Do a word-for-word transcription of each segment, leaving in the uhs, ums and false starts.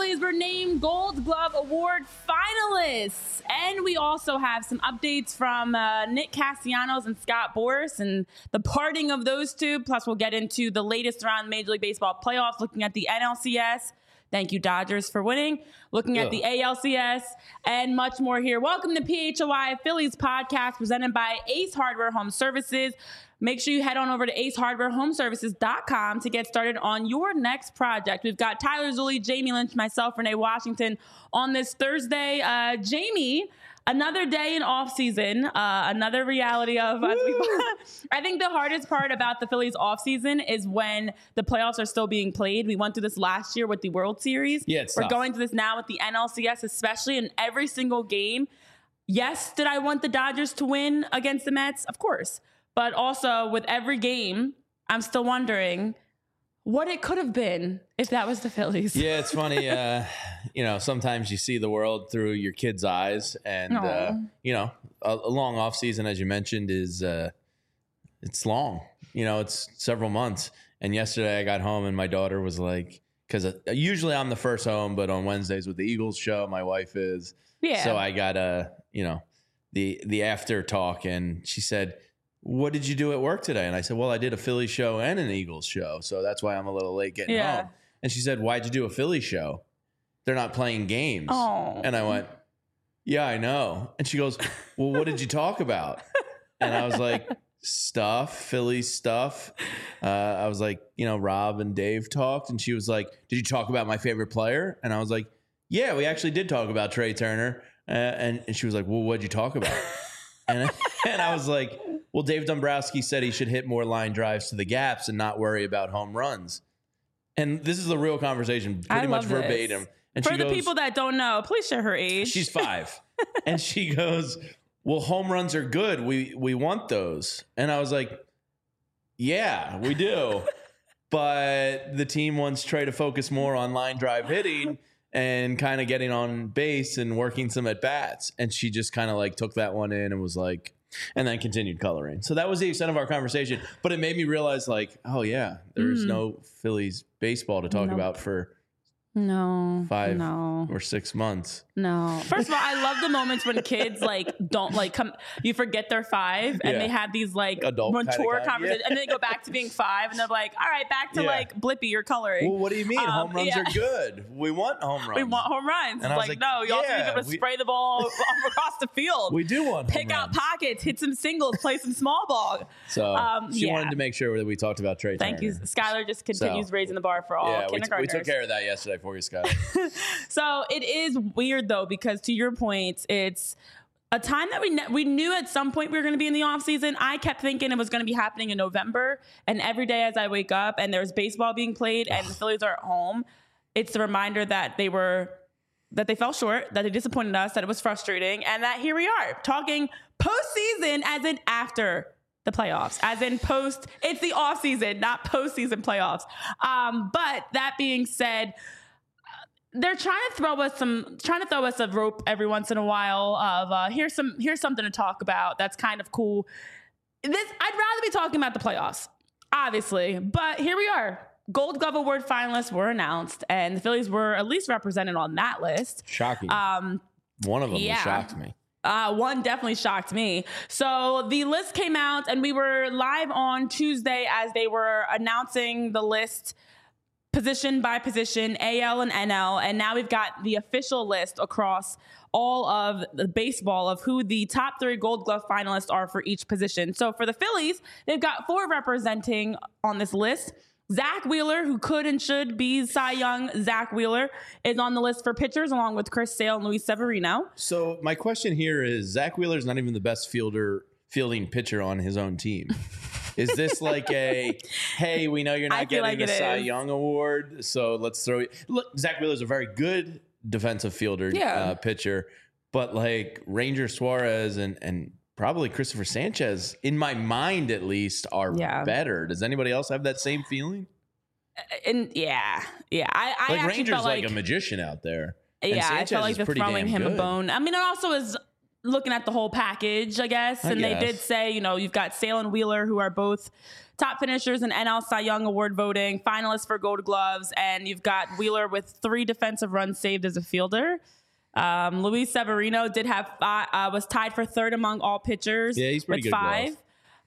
Phillies were named Gold Glove Award finalists. And we also have some updates from uh, Nick Castellanos and Scott Boras and the parting of those two. Plus, we'll get into the latest around Major League Baseball playoffs, looking at the N L C S. Thank you, Dodgers, for winning. Looking at Ugh. the A L C S and much more here. Welcome to P H O I Phillies podcast presented by Ace Hardware Home Services. Make sure you head on over to ace hardware home services dot com to get started on your next project. We've got Tyler Zulli, Jamie Lynch, myself, Renee Washington on this Thursday. Uh, Jamie, another day in off season, uh, another reality of us. I think the hardest part about the Phillies off season is when the playoffs are still being played. We went through this last year with the World Series. Yeah, it's We're tough. going through this now with the N L C S, especially in every single game. Yes, did I want the Dodgers to win against the Mets? Of course. But also with every game, I'm still wondering what it could have been if that was the Phillies. Yeah, it's funny. Uh, you know, sometimes you see the world through your kid's eyes, and uh, you know, a, a long off season, as you mentioned, is uh, it's long. You know, it's several months. And yesterday, I got home, and my daughter was like, because uh, usually I'm the first home, but on Wednesdays with the Eagles show, my wife is. Yeah. So I got a, you know, the the after talk, and she said, what did you do at work today? And I said, well, I did a Philly show and an Eagles show. So that's why I'm a little late getting yeah. home. And she said, why'd you do a Philly show? They're not playing games. Oh. And I went, yeah, I know. And she goes, well, what did you talk about? And I was like, stuff, Philly stuff. Uh, I was like, you know, Rob and Dave talked. And she was like, did you talk about my favorite player? And I was like, yeah, we actually did talk about Trey Turner. Uh, and, and she was like, well, what'd you talk about? and, and I was like, well, Dave Dombrowski said he should hit more line drives to the gaps and not worry about home runs. And this is a real conversation, pretty I much love this. verbatim. And For she the goes, people that don't know, please share her age. she's five. And she goes, well, home runs are good. We we want those. And I was like, yeah, we do. But the team wants Trey to focus more on line drive hitting and kind of getting on base and working some at bats. And she just kind of like took that one in and was like, and then continued coloring. So that was the extent of our conversation. But it made me realize, like, oh, yeah, there's mm. no Phillies baseball to talk nope. about for no five no. or six months. No. First of all, I love the moments when kids, like, don't, like, come, you forget they're five, and yeah. they have these, like, adult mature kind of conversations, yeah. and then they go back to being five, and they're like, all right, back to, yeah. like, Blippi, you're coloring. Well, what do you mean? Um, home runs yeah. are good. We want home runs. We want home runs. And it's like, like, no, you yeah, also need to be able to we, spray the ball across the field. We do want Pick home out runs. pockets, hit some singles, play some small ball. So um, she yeah. wanted to make sure that we talked about Trey Thank Turner. you. Skylar just continues so, raising the bar for all yeah, kindergartners. We, t- we took care of that yesterday for you, Skylar. So it is weird, though, because to your point, it's a time that we ne- we knew at some point we were going to be in the off season. I kept thinking it was going to be happening in November, and every day as I wake up and there's baseball being played and the Phillies are at home, it's a reminder that they were that they fell short, that they disappointed us, that it was frustrating, and that here we are talking postseason as in after the playoffs, as in post. It's the off season, not postseason playoffs. Um, but that being said, they're trying to throw us some, trying to throw us a rope every once in a while of uh, here's some, here's something to talk about. That's kind of cool. This, I'd rather be talking about the playoffs, obviously, but here we are. Gold Glove Award finalists were announced, and the Phillies were at least represented on that list. Shocking. Um, One of them yeah. shocked me. Uh, one definitely shocked me. So the list came out, and we were live on Tuesday as they were announcing the list position by position, A L and N L, and now we've got the official list across all of the baseball of who the top three Gold Glove finalists are for each position. So for the Phillies, they've got four representing on this list. Zach Wheeler, who could and should be Cy Young, Zach Wheeler is on the list for pitchers, along with Chris Sale and Luis Severino. So my question here is, Zach Wheeler's not even the best fielder, fielding pitcher on his own team. Is this like a, hey, we know you're not getting like the Cy is. Young award, so let's throw you. Look, Zach Wheeler's a very good defensive fielder, yeah. uh, pitcher, but like Ranger Suarez and and probably Christopher Sanchez, in my mind at least, are yeah. better. Does anybody else have that same feeling? And yeah, yeah. I, I like actually Ranger's felt like, like a magician out there. Yeah, I felt like they're throwing him good. a bone. I mean, it also is looking at the whole package, I guess. I and guess. they did say, you know, you've got Sale and Wheeler, who are both top finishers in N L Cy Young Award voting, finalists for Gold Gloves, and you've got Wheeler with three defensive runs saved as a fielder. Um, Luis Severino did have five, uh, was tied for third among all pitchers. Yeah, he's pretty with good. five. Glove.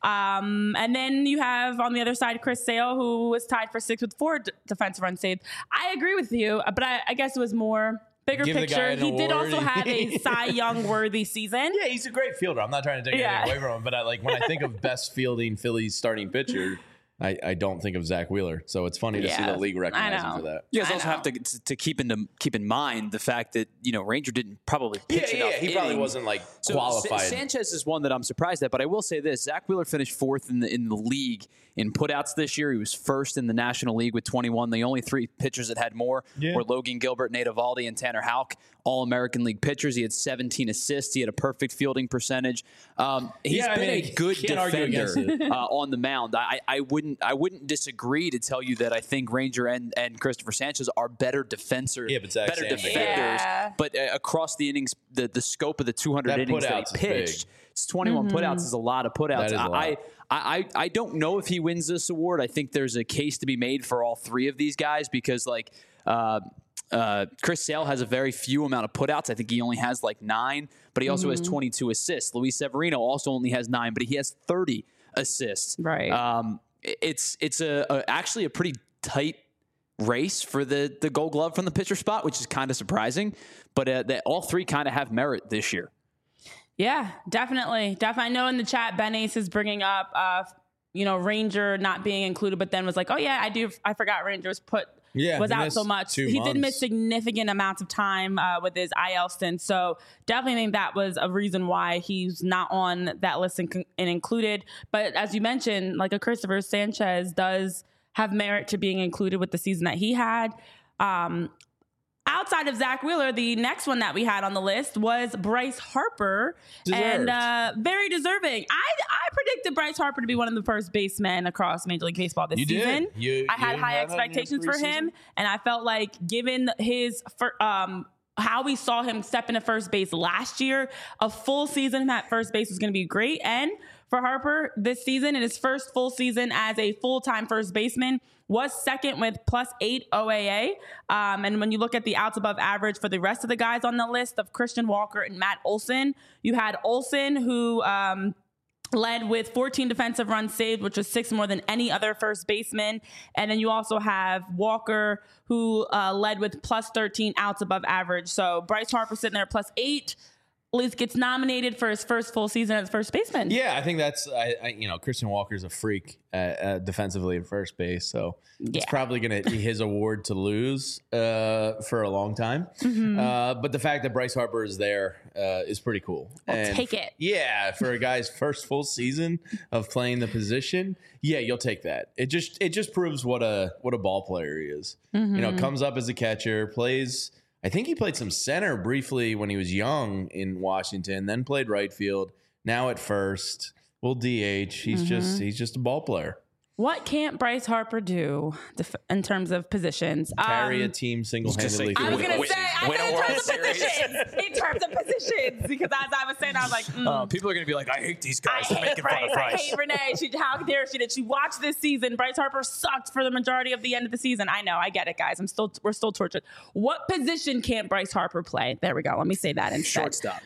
Um, and then you have on the other side Chris Sale, who was tied for sixth with four d- defensive runs saved. I agree with you, but I, I guess it was more bigger Give the guy picture. an He did award. also have a Cy Young worthy season. Yeah, he's a great fielder. I'm not trying to take Yeah. anything away from him, but I, like when I think of best fielding Phillies starting pitcher, I, I don't think of Zach Wheeler. So it's funny to see Yeah, the league recognize I him know. for that. You guys I also know. have to, to to keep in keep in mind the fact that you know Ranger didn't probably pitch Yeah, enough. yeah, he probably innings. wasn't like So qualified. Sa- Sanchez is one that I'm surprised at, but I will say this: Zach Wheeler finished fourth in the in the league in putouts this year. He was first in the National League with twenty-one. The only three pitchers that had more Yeah. were Logan Gilbert, Nate Eovaldi, and Tanner Houck, all American League pitchers. He had seventeen assists. He had a perfect fielding percentage. Um, he's Yeah, I been mean, a good can't argue defender against it. uh, on the mound. I, I wouldn't I wouldn't disagree to tell you that I think Ranger and, and Christopher Sanchez are better defenders, Yeah, but Zach better Sandberg- defenders. Yeah. But uh, across the innings, the, the scope of the two hundred That innings that putouts is he big. pitched, it's twenty-one putouts is a lot of putouts. That is a lot. I, I, I I don't know if he wins this award. I think there's a case to be made for all three of these guys because like uh, uh, Chris Sale has a very few amount of putouts. I think he only has like nine, but he also has twenty-two assists. Luis Severino also only has nine, but he has thirty assists. Right. Um, it's it's a, a actually a pretty tight race for the the Gold Glove from the pitcher spot, which is kind of surprising. But uh, they, all three kind of have merit this year. Yeah, definitely. Definitely. I know in the chat, Ben Ace is bringing up, uh, you know, Ranger not being included, but then was like, oh, yeah, I do. I forgot Ranger was put, Yeah, was he out missed so much. two He did months. miss significant amounts of time uh, with his I L stint. So definitely think that was a reason why he's not on that list and, and included. But as you mentioned, like a Christopher Sanchez does have merit to being included with the season that he had. Um, Outside of Zach Wheeler, the next one that we had on the list was Bryce Harper, Deserved. and uh, very deserving. I I predicted Bryce Harper to be one of the first basemen across Major League Baseball this You did. season. You- I had you high had that in your expectations for him, preseason? and I felt like given his fir- um. how we saw him step into first base last year, a full season at first base was going to be great. And for Harper, this season, in his first full season as a full-time first baseman, was second with plus eight O A A. Um, and when you look at the outs above average for the rest of the guys on the list of Christian Walker and Matt Olson, you had Olson, who um, led with fourteen defensive runs saved, which was six more than any other first baseman. And then you also have Walker, who uh, led with plus thirteen outs above average. So Bryce Harper sitting there at plus eight, at least gets nominated for his first full season as first baseman. Yeah, I think that's I, I you know Christian Walker's a freak uh, uh, defensively at first base, so Yeah. it's probably going to be his award to lose uh, for a long time. Mm-hmm. Uh, but the fact that Bryce Harper is there uh, is pretty cool. I'll take it. Yeah, for a guy's first full season of playing the position, yeah, you'll take that. It just it just proves what a what a ball player he is. Mm-hmm. You know, comes up as a catcher, plays. I think he played some center briefly when he was young in Washington, then played right field. Now at first, will D H. He's Mm-hmm. just he's just a ball player. What can't Bryce Harper do def- in terms of positions? Carry Um, a team single handedly. say- I was Win- gonna win- say, I win a said in World terms of Series. positions, in terms of positions, because as I was saying, I was like, mm, Uh, people are going to be like, I hate these I guys. They're hate making fun Bryce. of I Bryce. hate Renee. She, how dare she? Did she watch this season? Bryce Harper sucked for the majority of the end of the season. I know. I get it, guys. I'm still. We're still tortured. What position can't Bryce Harper play? There we go. Let me say that instead. Shortstop.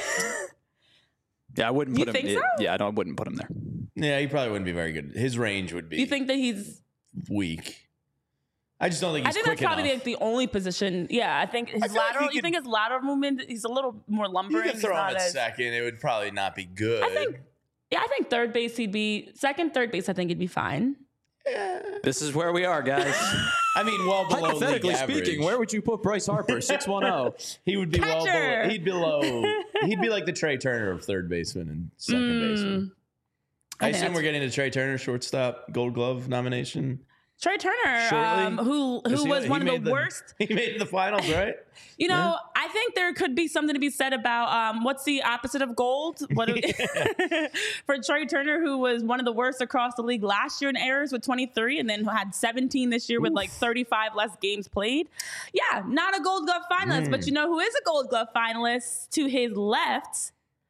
Yeah, I wouldn't You put him. think so? Yeah, I, don't, I wouldn't put him there. Yeah, he probably wouldn't be very good. His range would be You think that he's? weak. I just don't think I he's think quick that's probably enough. like the only position. Yeah, I think his I feel like lateral. he you could- think his lateral movement? He's a little more You lumbering. could He's throw him not at as- second. It would probably not be good. I think. Yeah, I think third base he'd be second, third base. I think he'd be fine. This is where we are, guys. I mean, well below Hypothetically league speaking, average. where would you put Bryce Harper? six one zero. He would be well Catcher. below. He'd be below. He'd be like the Trey Turner of third baseman and second Mm, baseman. I I, think assume that's- we're getting a Trey Turner shortstop Gold Glove nomination. Trey Turner, Shortly? um, who Is who he- was he one of made the worst. He made the finals, right? You know, I think there could be something to be said about um, what's the opposite of gold? What do we, for Trey Turner, who was one of the worst across the league last year in errors with twenty-three, and then had seventeen this year with like thirty-five less games played. Yeah, not a Gold Glove finalist, Mm. but you know who is a Gold Glove finalist to his left?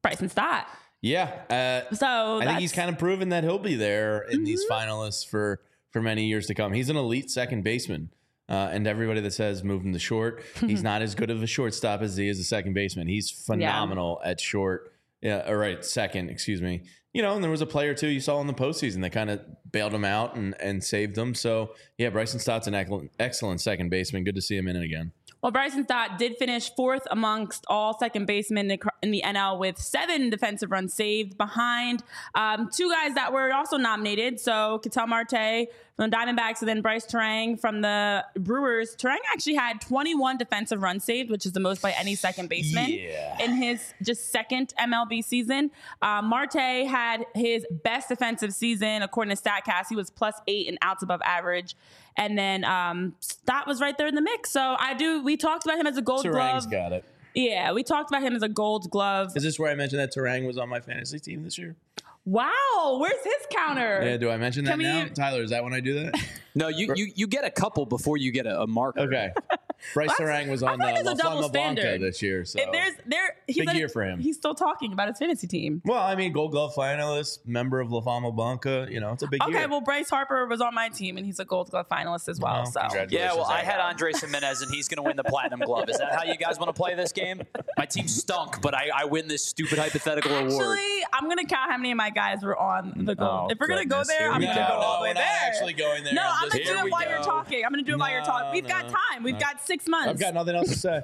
Bryson Stott. Yeah. Uh, So I think he's kind of proven that he'll be there in Mm-hmm. these finalists for, for many years to come. He's an elite second baseman. Uh, and everybody that says move him to short, he's not as good of a shortstop as he is a second baseman. He's phenomenal yeah. at short. Yeah, or right, second, excuse me. You know, and there was a player too you saw in the postseason that kind of bailed him out and, and saved him. So yeah, Bryson Stott's an excellent, excellent second baseman. Good to see him in it again. Well, Bryson Stott did finish fourth amongst all second basemen in the N L with seven defensive runs saved behind um, two guys that were also nominated. So Ketel Marte from the Diamondbacks and then Bryce Terang from the Brewers. Terang actually had twenty-one defensive runs saved, which is the most by any second baseman yeah. in his just second M L B season. Uh, Marte had his best defensive season according to StatCast. He was plus eight and outs above average. And then um, Stott was right there in the mix. So I do. We talked about him as a Gold Terang's Glove. got it. Yeah, we talked about him as a Gold Glove. Is this where I mentioned that Terang was on my fantasy team this year? Wow, where's his counter? Yeah, do I mention that Can we- now? Tyler, is that when I do that? No, you, you you get a couple before you get a, a marker. Okay. Bryce Terang was I on feel like uh, it's a La double Flama Blanca standard. this year. So. If there's there, he's Big at- year for him. He's still talking about his fantasy team. Well, I mean, Gold Glove finalist, member of La Fama Blanca. You know, it's a big Okay, year. well, Bryce Harper was on my team, and he's a Gold Glove finalist as well. Well, so congratulations. Yeah, well, I Zach. had Andres Jimenez, and he's going to win the Platinum Glove. Is that how you guys want to play this game? My team stunk, but I, I win this stupid hypothetical award. actually, I'm gonna count how many of my guys were on the Gold. Oh, if we're gonna go goodness, there, here I'm we gonna No, go go. all the no, way we're not there. actually going there. No, I'm I'm just- gonna do Here it we while you're go. talking. I'm gonna do it while you're No, talking. We've no, got time. We've no. got six months. I've got nothing else to say.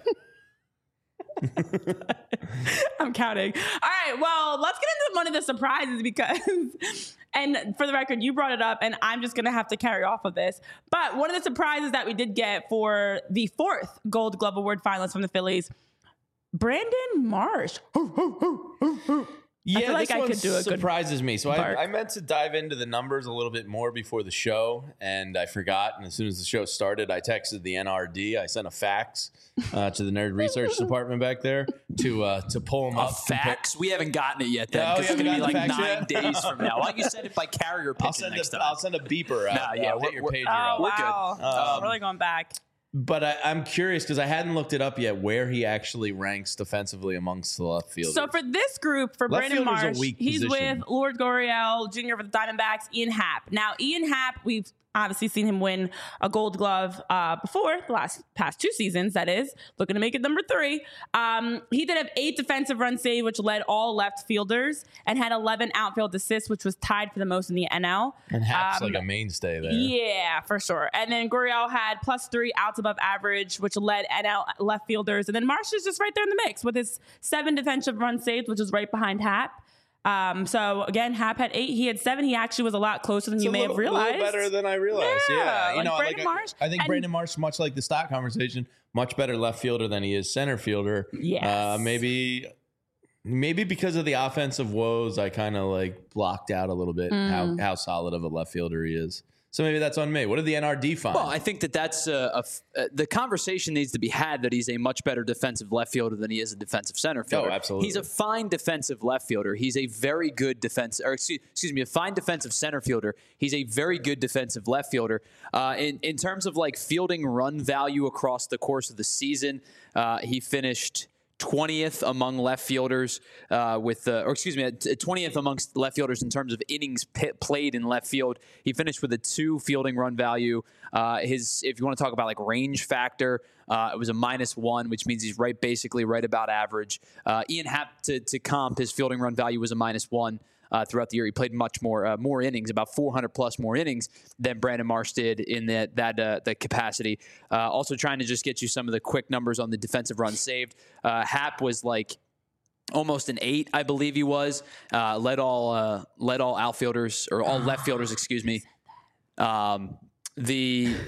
I'm counting. All right. Well, let's get into one of the surprises because, and for the record, you brought it up, and I'm just going to have to carry off of this. But one of the surprises that we did get for the fourth Gold Glove Award finalist from the Phillies, Brandon Marsh. Yeah, feel like this I one could do a good surprises me. So bark. I, I meant to dive into the numbers a little bit more before the show, and I forgot. And as soon as the show started, I texted the N R D. I sent a fax uh, to the Nerd Research Department back there to uh, to pull them A up. fax? We haven't gotten it yet, then, No, because you it's going to be haven't like gotten nine the fax days from now. Why don't you send it by carrier I'll pigeon send next a time? I'll send a beeper out. Nah, yeah, I'll hit we're- your we're- pager Oh, out. We're good. wow. Um, I'm really going back. But I, I'm curious because I hadn't looked it up yet where he actually ranks defensively amongst the left fielders. So for this group, for Left Brandon fielder's a Marsh, weak he's position. with Lord Gurriel Junior for the Diamondbacks, Ian Happ. Now, Ian Happ, we've obviously seen him win a Gold Glove uh, before the last past two seasons. That is looking to make it number three. Um, he did have eight defensive run save, which led all left fielders, and had eleven outfield assists, which was tied for the most in the N L. and Happ's Um, like a mainstay there. Yeah, for sure. And then Gurriel had plus three outs above average, which led N L left fielders. And then Marsh is just right there in the mix with his seven defensive run saves, which is right behind Happ. Um, so again, Happ had eight. He had seven. He actually was a lot closer than It's you a may little, have realized. A little better than I realized. Yeah, Yeah, you like know, Brandon like Marsh. I, I think And- Brandon Marsh, much like the stock conversation, much better left fielder than he is center fielder. Yes. uh, maybe, maybe because of the offensive woes, I kind of like blocked out a little bit Mm. how how solid of a left fielder he is. So maybe that's on me. What did the N R D find? Well, I think that that's a, a f- uh, the conversation needs to be had that he's a much better defensive left fielder than he is a defensive center fielder. Oh, absolutely. He's a fine defensive left fielder. He's a very good defense, or excuse, excuse me, a fine defensive center fielder. He's a very good defensive left fielder. Uh, in in terms of like fielding run value across the course of the season, uh, he finished twentieth among left fielders uh, with, uh, or excuse me, twentieth amongst left fielders in terms of innings p- played in left field. He finished with a two fielding run value. Uh, his, if you want to talk about like range factor, uh, it was a minus one, which means he's right, basically right about average. Uh, Ian Happ to, to comp, his fielding run value was a minus one. Uh, throughout the year, he played much more uh, more innings, about four hundred plus more innings than Brandon Marsh did in that that uh, that capacity. Uh, also, trying to just get you some of the quick numbers on the defensive runs saved. Uh, Happ was like almost an eight, I believe he was. Uh, led all uh, led all outfielders or all left fielders, excuse me. Um, the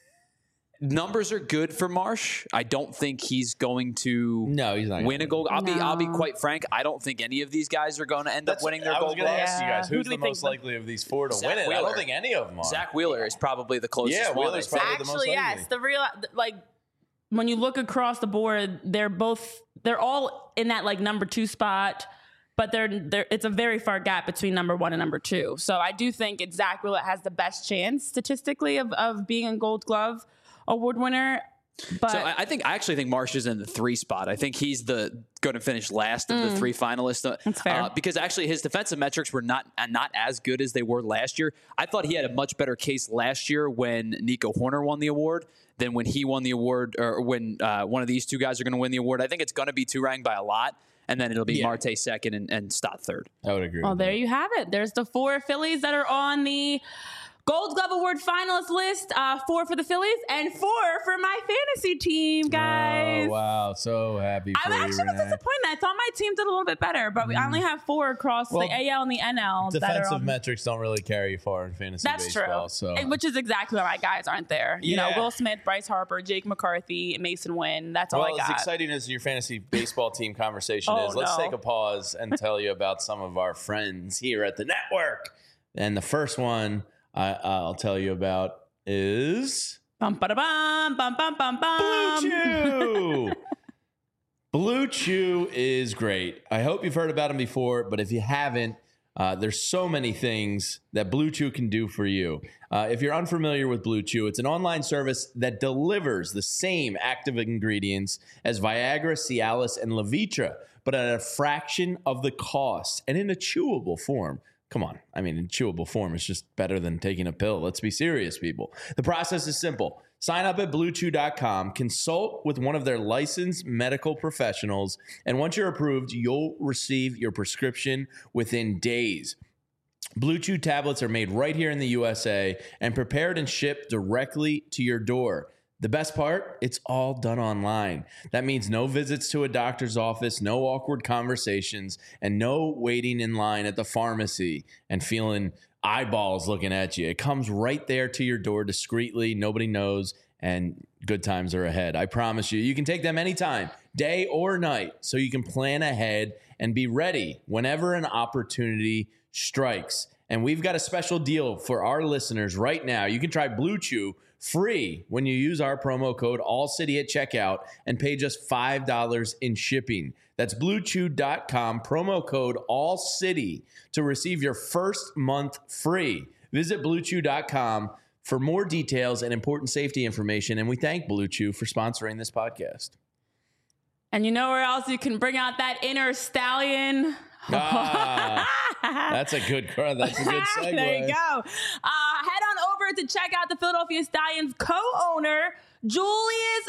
numbers are good for Marsh. I don't think he's going to no, he's not gonna win a gold. I'll be I'll be No. quite frank. I don't think any of these guys are going to end That's up winning their I was gold going to glove. ask you guys Who who's do we the think most the- likely of these four to Zach win it. I Wheeler. don't think any of them are. Zach Wheeler is probably the closest Yeah, one. Wheeler's I think. probably the most Actually, likely. yes. The real, like, when you look across the board, they're both, they're all in that like number two spot, but they're, they're, it's a very far gap between number one and number two. So I do think it's Zach Wheeler has the best chance statistically of, of being a Gold Glove Award winner. But so I, I think I actually think Marsh is in the three spot. I think he's the going to finish last of mm, the three finalists. Uh, that's fair. Uh, because actually his defensive metrics were not uh, not as good as they were last year. I thought he had a much better case last year when Nico Horner won the award than when he won the award, or when uh, one of these two guys are going to win the award. I think it's going to be Turang by a lot. And then it'll be yeah. Marte second and, and Stott third. I would agree. Well, with there that. you have it. There's the four Phillies that are on the Gold Glove Award finalist list. Uh, four for the Phillies and four for my fantasy team, guys. Oh, wow. So happy for I you, actually was Renee. disappointed. I thought my team did a little bit better, but we only have four across Well, the A L and the N L. Defensive that are on. metrics don't really carry you far in fantasy That's baseball. true. So. And- Which is exactly why my guys aren't there. You Yeah. know, Will Smith, Bryce Harper, Jake McCarthy, Mason Wynn. That's all Well, I got. as exciting as your fantasy baseball team conversation Oh, is, let's no. take a pause and tell you about some of our friends here at the network. And the first one I, I'll tell you about is Bum, ba, da, bum, bum, bum, bum, bum. Blue Chew. Blue Chew is great. I hope you've heard about them before, but if you haven't, uh, there's so many things that Blue Chew can do for you. Uh, if you're unfamiliar with Blue Chew, it's an online service that delivers the same active ingredients as Viagra, Cialis, and Levitra, but at a fraction of the cost and in a chewable form. Come on. I mean, in chewable form, it's just better than taking a pill. Let's be serious, people. The process is simple. Sign up at blue chew dot com, consult with one of their licensed medical professionals, and once you're approved, you'll receive your prescription within days. Blue Chew tablets are made right here in the U S A and prepared and shipped directly to your door. The best part, it's all done online. That means no visits to a doctor's office, no awkward conversations, and no waiting in line at the pharmacy and feeling eyeballs looking at you. It comes right there to your door discreetly. Nobody knows, and good times are ahead. I promise you. You can take them anytime, day or night, so you can plan ahead and be ready whenever an opportunity strikes. And we've got a special deal for our listeners right now. You can try Blue Chew free when you use our promo code ALLCITY at checkout and pay just five dollars in shipping. That's blue chew dot com, promo code ALLCITY to receive your first month free. Visit blue chew dot com for more details and important safety information. And we thank Blue Chew for sponsoring this podcast. And you know where else you can bring out that inner stallion? Ah, that's a good that's a good segue. There you go. Uh, head on over to check out the Philadelphia Stallions co-owner, Julius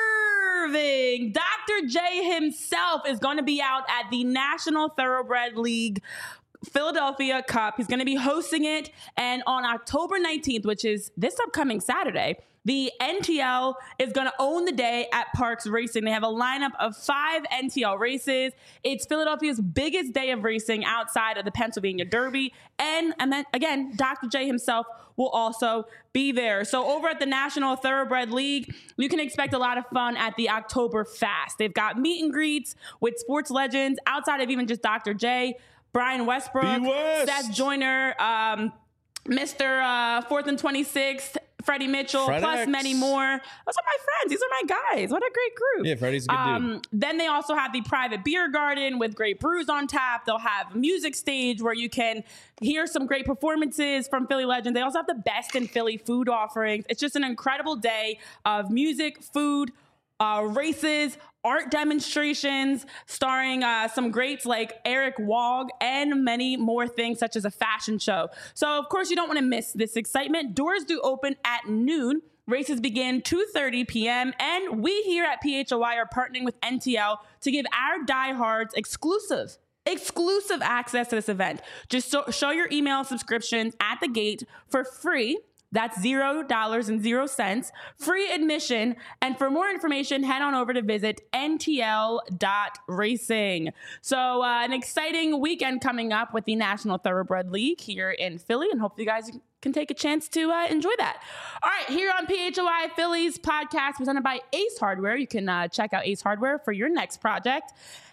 Irving. Doctor J himself is going to be out at the National Thoroughbred League Philadelphia Cup. He's going to be hosting it. And on October nineteenth, which is this upcoming Saturday, the N T L is going to own the day at Parks Racing. They have a lineup of five N T L races. It's Philadelphia's biggest day of racing outside of the Pennsylvania Derby. And, and then, again, Doctor J himself will also be there. So over at the National Thoroughbred League, you can expect a lot of fun at the October Fast. They've got meet and greets with sports legends outside of even just Doctor J, Brian Westbrook, B-West. Seth Joyner, um, Mister Uh, Fourth and twenty-sixth, Freddie Mitchell, Fred plus X. many more. Those are my friends. These are my guys. What a great group. Yeah, Freddie's a good um, dude. Then they also have the private beer garden with great brews on tap. They'll have a music stage where you can hear some great performances from Philly legends. They also have the best in Philly food offerings. It's just an incredible day of music, food, uh, races, art demonstrations starring uh, some greats like Eric Wog and many more things such as a fashion show. So, of course, you don't want to miss this excitement. Doors do open at noon. Races begin two thirty p.m. And we here at P H O I are partnering with N T L to give our diehards exclusive exclusive access to this event. Just so, show your email subscription at the gate for free. That's zero dollars and zero cents, free admission. And for more information, head on over to visit N T L dot racing. So uh, an exciting weekend coming up with the National Thoroughbred League here in Philly, and hopefully you guys can take a chance to uh, enjoy that. All right, here on P H O I Phillies podcast presented by Ace Hardware. You can uh, check out Ace Hardware for your next project.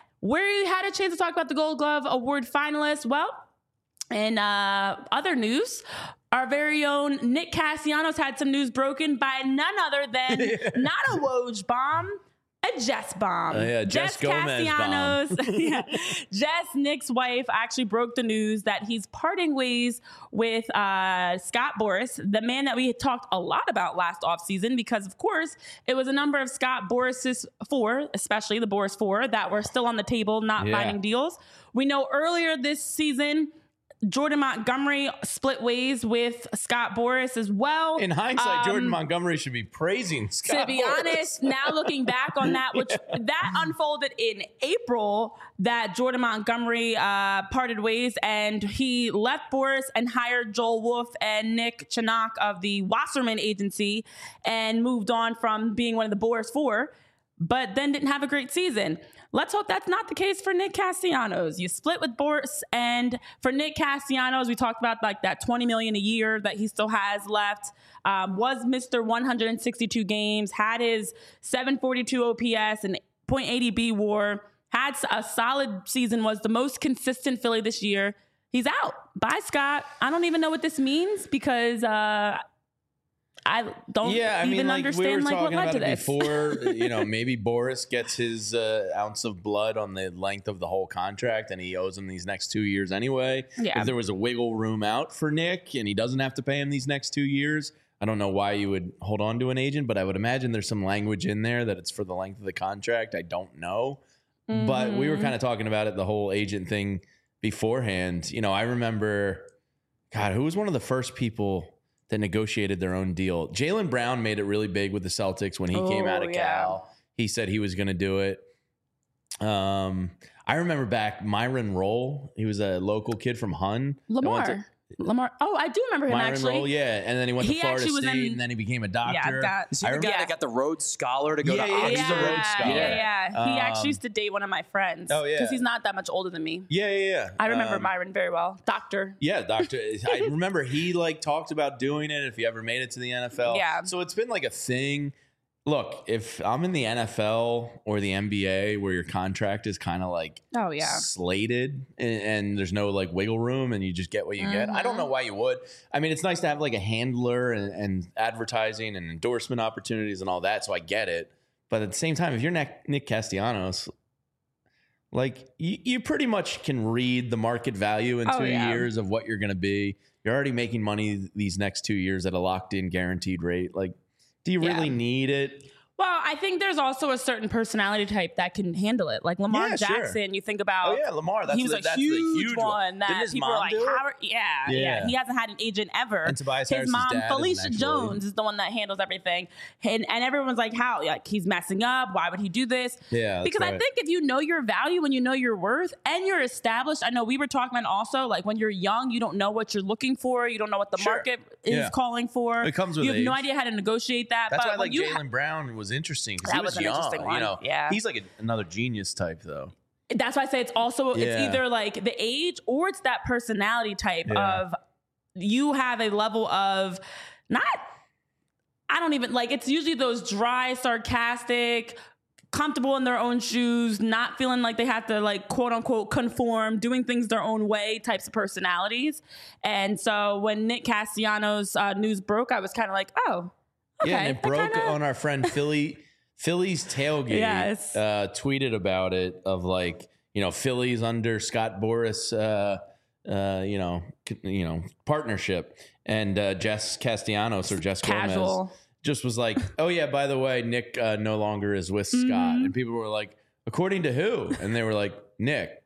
We had a chance to talk about the Gold Glove Award finalists. Well, in uh, other news, our very own Nick Castellanos had some news broken by none other than not a Woj bomb, a a Jess bomb. Uh, yeah, Jess Gomez Castellanos. yeah. Jess, Nick's wife, actually broke the news that he's parting ways with uh, Scott Boras, the man that we had talked a lot about last offseason, because, of course, it was a number of Scott Boras's four, especially the Boras four, that were still on the table, not Yeah. finding deals. We know earlier this season, Jordan Montgomery split ways with Scott Boras as well. In hindsight, Um, Jordan Montgomery should be praising Scott To be Boras. honest, now looking back on that, which that unfolded in April, that Jordan Montgomery uh, parted ways and he left Boras and hired Joel Wolf and Nick Chinock of the Wasserman Agency and moved on from being one of the Boras four, but then didn't have a great season. Let's hope that's not the case for Nick Castellanos. You split with Boras, and for Nick Castellanos, we talked about like that twenty million dollars a year that he still has left. Um, was Mister one hundred sixty-two games, had his seven forty-two O P S and point eight oh B WAR, had a solid season, was the most consistent Philly this year. He's out. Bye, Scott. I don't even know what this means because uh, I don't Yeah, I even mean, like understand we were like what talking led about to it this. before. You know, maybe Boras gets his uh, ounce of blood on the length of the whole contract, and he owes him these next two years anyway. Yeah. If there was a wiggle room out for Nick, and he doesn't have to pay him these next two years, I don't know why you would hold on to an agent, but I would imagine there's some language in there that it's for the length of the contract. I don't know, Mm-hmm. but we were kind of talking about it, the whole agent thing beforehand. You know, I remember, God, who was one of the first people that negotiated their own deal? Jaylen Brown made it really big with the Celtics when he came Oh, out of yeah. Cal. He said he was going to do it. Um, I remember back Myron Roll. He was a local kid from Hun. that went to- Lamar. Lamar. Oh, I do remember him Myron actually. Roll, yeah. And then he went He to Florida actually was State, in- and then he became a doctor. Yeah, that- Is he I the guy Yeah. that got the Rhodes Scholar to go Yeah, to yeah, Oxford? he's a Rhodes Scholar. Yeah, yeah. He Um, actually used to date one of my friends. Oh, yeah. Because he's not that much older than me. Yeah, yeah, yeah. I remember Um, Myron very well. Doctor. Yeah, doctor. I remember he like talked about doing it if he ever made it to the N F L. Yeah. So it's been like a thing. Look, if I'm in the N F L or the N B A where your contract is kind of like Oh, yeah. slated and, and there's no like wiggle room and you just get what you get, I don't know why you would. I mean, it's nice to have like a handler and, and advertising and endorsement opportunities and all that. So I get it. But at the same time, if you're Nick, Nick Castellanos, like you, you pretty much can read the market value in Oh, two yeah. years of what you're going to be. You're already making money these next two years at a locked in guaranteed rate. Like, do you Yeah. really need it? Well, I think there's also a certain personality type that can handle it. Like Lamar Yeah, sure. Jackson, you think about. Oh yeah, Lamar. That's he was the, a that's huge, the huge one that Didn't his people are mom like, do it? how, yeah, yeah, Yeah. He hasn't had an agent ever. And Tobias His Harris's mom, dad is an Felicia actual Jones, agent. is the one that handles everything. And, and everyone's like, how? Like, he's messing up. Why would he do this? Yeah, that's because I right. think if you know your value and you know your worth and you're established, I know we were talking about also, like when you're young, you don't know what you're looking for. You don't know what the Sure. market is Yeah. calling for. It comes with You have no age. idea how to negotiate that. That's but why when like you Jaylen ha- Brown was interesting because That he was, was an young. interesting one. You know, Yeah. he's like a, another genius type though. That's why I say it's also it's Yeah. either like the age or it's that personality type Yeah. of you have a level of not I don't even like it's usually those dry, sarcastic, comfortable in their own shoes, not feeling like they have to like quote unquote conform, doing things their own way types of personalities. And so when Nick Castellanos uh, news broke, I was kind of like, oh, okay. Yeah, and it that broke kinda- on our friend Philly. Philly's tailgate Yes. uh, tweeted about it of like, you know, Philly's under Scott Boras, uh, uh, you know, c- you know, partnership, and uh, Jess Castellanos or Jess Gomez Casual. just was like, oh yeah, by the way, Nick uh, no longer is with Scott, Mm-hmm. and people were like, according to who? And they were like, Nick.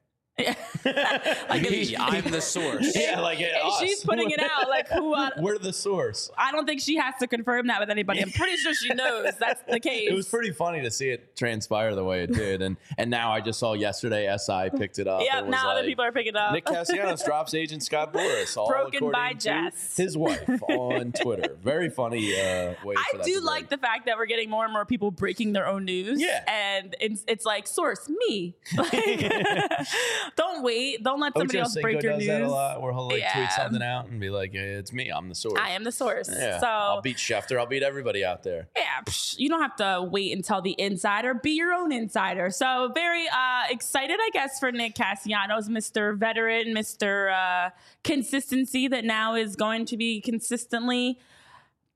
Like, Me, I'm the source. Yeah, like And us. she's putting it out like who I, We're the source. I don't think she has to confirm that with anybody. I'm pretty sure she knows that's the case. It was pretty funny to see it transpire the way it did, and and now I just saw yesterday S I picked it up. Yeah, and was now other like, people are picking up. Nick Castellanos drops agent Scott Boras, all Broken by according to Jess. his wife on Twitter. Very funny uh, way. I for that do to like break. the fact that we're getting more and more people breaking their own news. Yeah. And it's, it's like, source, me. Like, don't wait. Don't let somebody Ocho else Cinco break your does news. that a lot, where he'll like Yeah. tweet something out and be like, hey, "It's me. I'm the source." I am the source. Yeah, So I'll beat Schefter. I'll beat everybody out there. yeah, psh, you don't have to wait until the insider. Be your own insider. So very uh, excited, I guess, for Nick Castellanos, Mister Veteran, Mister Uh, consistency that now is going to be consistently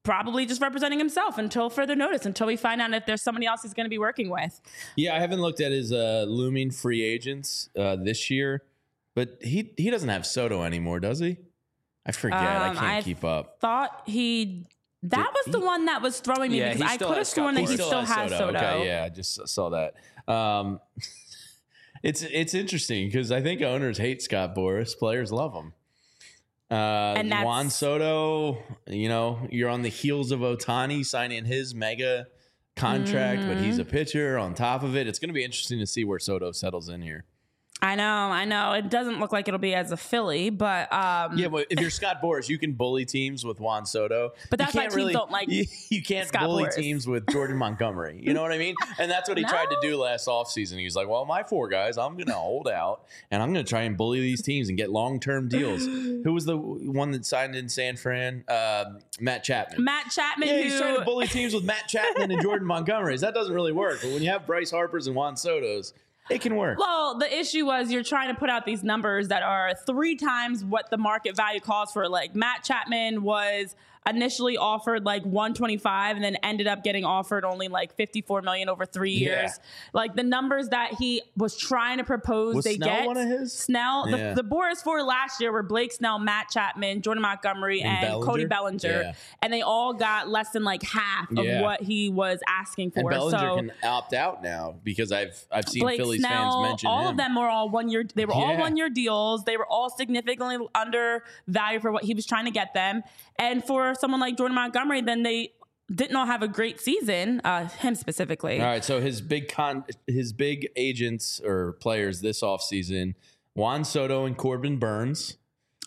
probably just representing himself until further notice, until we find out if there's somebody else he's going to be working with. Yeah, I haven't looked at his uh, looming free agents uh, this year, but he he doesn't have Soto anymore, does he? I forget. Um, I can't I keep up. Thought he. That Did was the he- one that was throwing me Yeah, because he I still could have has Scott sworn that he Boras. still has Soto. Okay, yeah, I just saw that. Um, it's it's interesting because I think owners hate Scott Boras, players love him. Uh, And that's- Juan Soto, you know, you're on the heels of Ohtani signing his mega contract, but Mm-hmm. he's a pitcher on top of it. It's going to be interesting to see where Soto settles in here. I know, I know. It doesn't look like it'll be as a Philly, but um, Yeah, but if you're Scott Boras, you can bully teams with Juan Soto. But that's You why can't teams don't like you, you can't Scott bully Boras. teams with Jordan Montgomery. You know what I mean? And that's what he No. tried to do last offseason. He's like, well, my four guys, I'm going to hold out, and I'm going to try and bully these teams and get long-term deals. Who was the one that signed in San Fran? Um Matt Chapman. Matt Chapman, Yeah, who he's trying to bully teams with Matt Chapman and Jordan Montgomery's. That doesn't really work. But when you have Bryce Harper's and Juan Soto's, it can work. Well, the issue was you're trying to put out these numbers that are three times what the market value calls for. Like Matt Chapman was initially offered like one twenty-five and then ended up getting offered only like fifty-four million over three Yeah. years. Like the numbers that he was trying to propose, Was they Snell get one of his? Snell. Yeah. The, the Boras four last year were Blake Snell, Matt Chapman, Jordan Montgomery, And and, Cody Bellinger? Bellinger, Yeah. and they all got less than like half of Yeah. what he was asking And for. Bellinger so can opt out now because I've I've seen Blake Phillies Snell, fans mention all him. of them were all one year. They were all Yeah. one year deals. They were all significantly under value for what he was trying to get them. And for someone like Jordan Montgomery, then they didn't all have a great season. Uh, him specifically. All right, so his big con, his big agents or players this offseason, Juan Soto and Corbin Burns.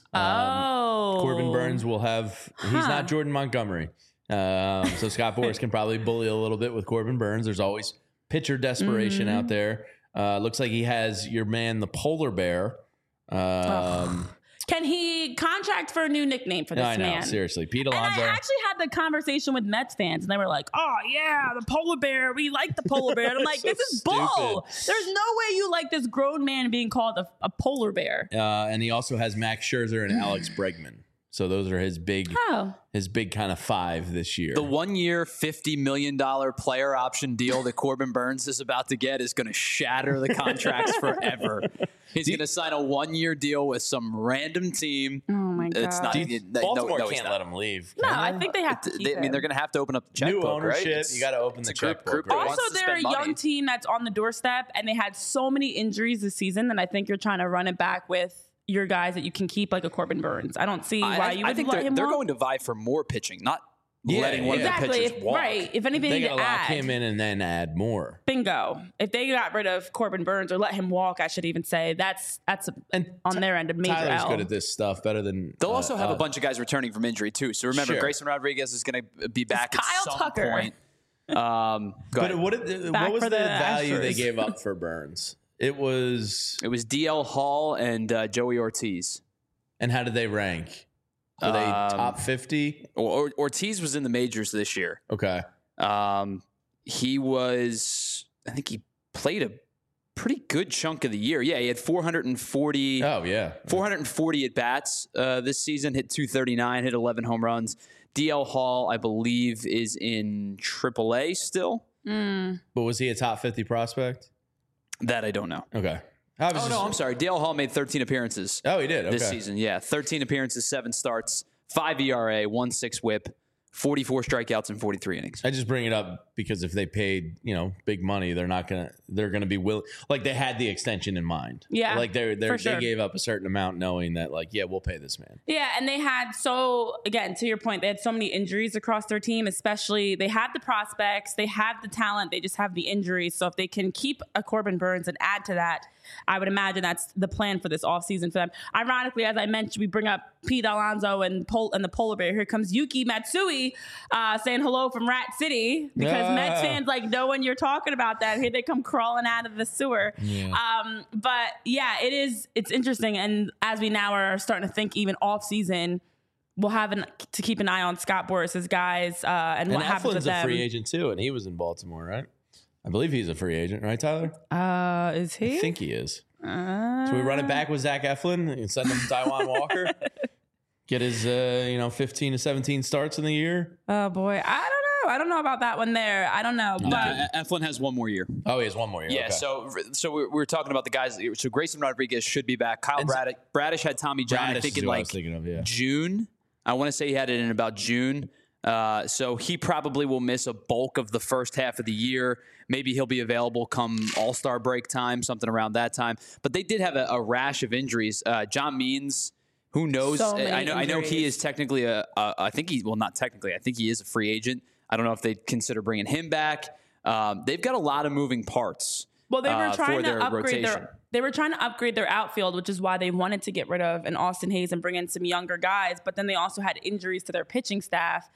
Oh, Corbin Burns will have. He's Huh. not Jordan Montgomery, um, so Scott Boras can probably bully a little bit with Corbin Burns. There's always pitcher desperation Mm-hmm. out there. Uh, looks like he has your man, the polar bear. Um, Can he contract for a new nickname for this I know, man? seriously, Pete And Alonso. I actually had the conversation with Mets fans, and they were like, "Oh yeah, the polar bear. We like the polar bear." And I'm like, So "This is bull. stupid. There's no way you like this grown man being called a, a polar bear." uh, and he also has Max Scherzer and Alex Bregman. So those are his big, Oh, his big kind of five this year. The one year, fifty million dollars player option deal that Corbin Burns is about to get is going to shatter the contracts forever. He's going to sign a one year deal with some random team. oh my god. It's not. Do you- it- no, Baltimore no, he's can't not. let him leave. No, can I they? think they have to. They- keep I mean, him. they're going to have to open up the checkbook, New right? ownership. It's- You got to open it's the a group- checkbook. group right? that Also, wants to they're a spend young money. team that's on the doorstep, and they had so many injuries this season that I think you're trying to run it back with your guys that you can keep, like a Corbin Burns. I don't see I, why I- you I would think let they're, him they're walk. going to vie for more pitching, not Yeah, letting one yeah. of exactly, the if, pitchers walk. right? If anything, They to got to lock add, him in and then add more. bingo. If they got rid of Corbin Burns or let him walk, I should even say that's that's a, And on their end a major Tyler's L. good at this stuff, better than. They'll uh, also have a uh, bunch of guys returning from injury too. So remember, Sure. Grayson Rodriguez is going to be back at Kyle some Tucker. point. Um, go But ahead. what, did, Back what was for the, the value they Astros. gave up for Burns? It was, It was D L Hall and uh, Joey Ortiz. and how did they rank? Were they Um, top fifty? Or, or, Ortiz was in the majors this year. Okay. Um, he was, I think he played a pretty good chunk of the year. Yeah, he had four hundred forty, Oh yeah. four hundred forty at bats uh, this season, hit two thirty-nine, hit eleven home runs. D L Hall, I believe, is in triple A still. Mm. But was he a top fifty prospect? That I don't know. Okay. I was Oh, just- no, I'm sorry. D L Hall made thirteen appearances Oh, he did. Okay. this season. Yeah, thirteen appearances, seven starts, five E R A, one six whip, forty-four strikeouts in forty-three innings. I just bring it up because if they paid, you know, big money, they're not gonna. They're gonna be willing. Like they had the extension in mind. Yeah, Like they they for they sure. gave up a certain amount, knowing that like yeah, we'll pay this man. Yeah, and they had so again to your point, they had so many injuries across their team. Especially they have the prospects, they have the talent, they just have the injuries. So if they can keep a Corbin Burns and add to that, I would imagine that's the plan for this offseason for them. Ironically, as I mentioned, we bring up Pete Alonso and Pol- and the polar bear. Here comes Yuki Matsui uh, saying hello from Rat City because Ah. Mets fans like know when you're talking about that. Here they come crawling out of the sewer. Yeah. Um, but yeah, it is. It's interesting, and as we now are starting to think, even off season, we'll have an, to keep an eye on Scott Boris's guys uh, and, And what happens with Eflin's a them. free agent too, and he was in Baltimore, right? I believe he's a free agent, right, Tyler? Uh, is he? I think he is. Uh, So we run it back with Zach Eflin and send him Taiwan Walker. get his, uh, you know, fifteen to seventeen starts in the year. Oh boy, I don't know. I don't know about that one there. I don't know. No, But Eflin has one more year. Oh, he has one more year. Yeah, okay. so so we're, we're talking about the guys. So Grayson Rodriguez should be back. Kyle And- Bradish, Bradish had Tommy John, I Bradish think, is in who I like was thinking of, yeah. June. I want to say he had it in about June. Uh, so he probably will miss a bulk of the first half of the year. Maybe he'll be available come All-Star break time, something around that time. But they did have a, a rash of injuries. Uh, John Means, who knows? So many I know. I know he injuries. is technically a, a. I think he. Well, not technically. I think he is a free agent. I don't know if they consider bringing him back. Um, they've got a lot of moving parts. well, they were uh, trying for to their upgrade rotation. their. They were trying to upgrade their outfield, which is why they wanted to get rid of an Austin Hayes and bring in some younger guys. But then they also had injuries to their pitching staff.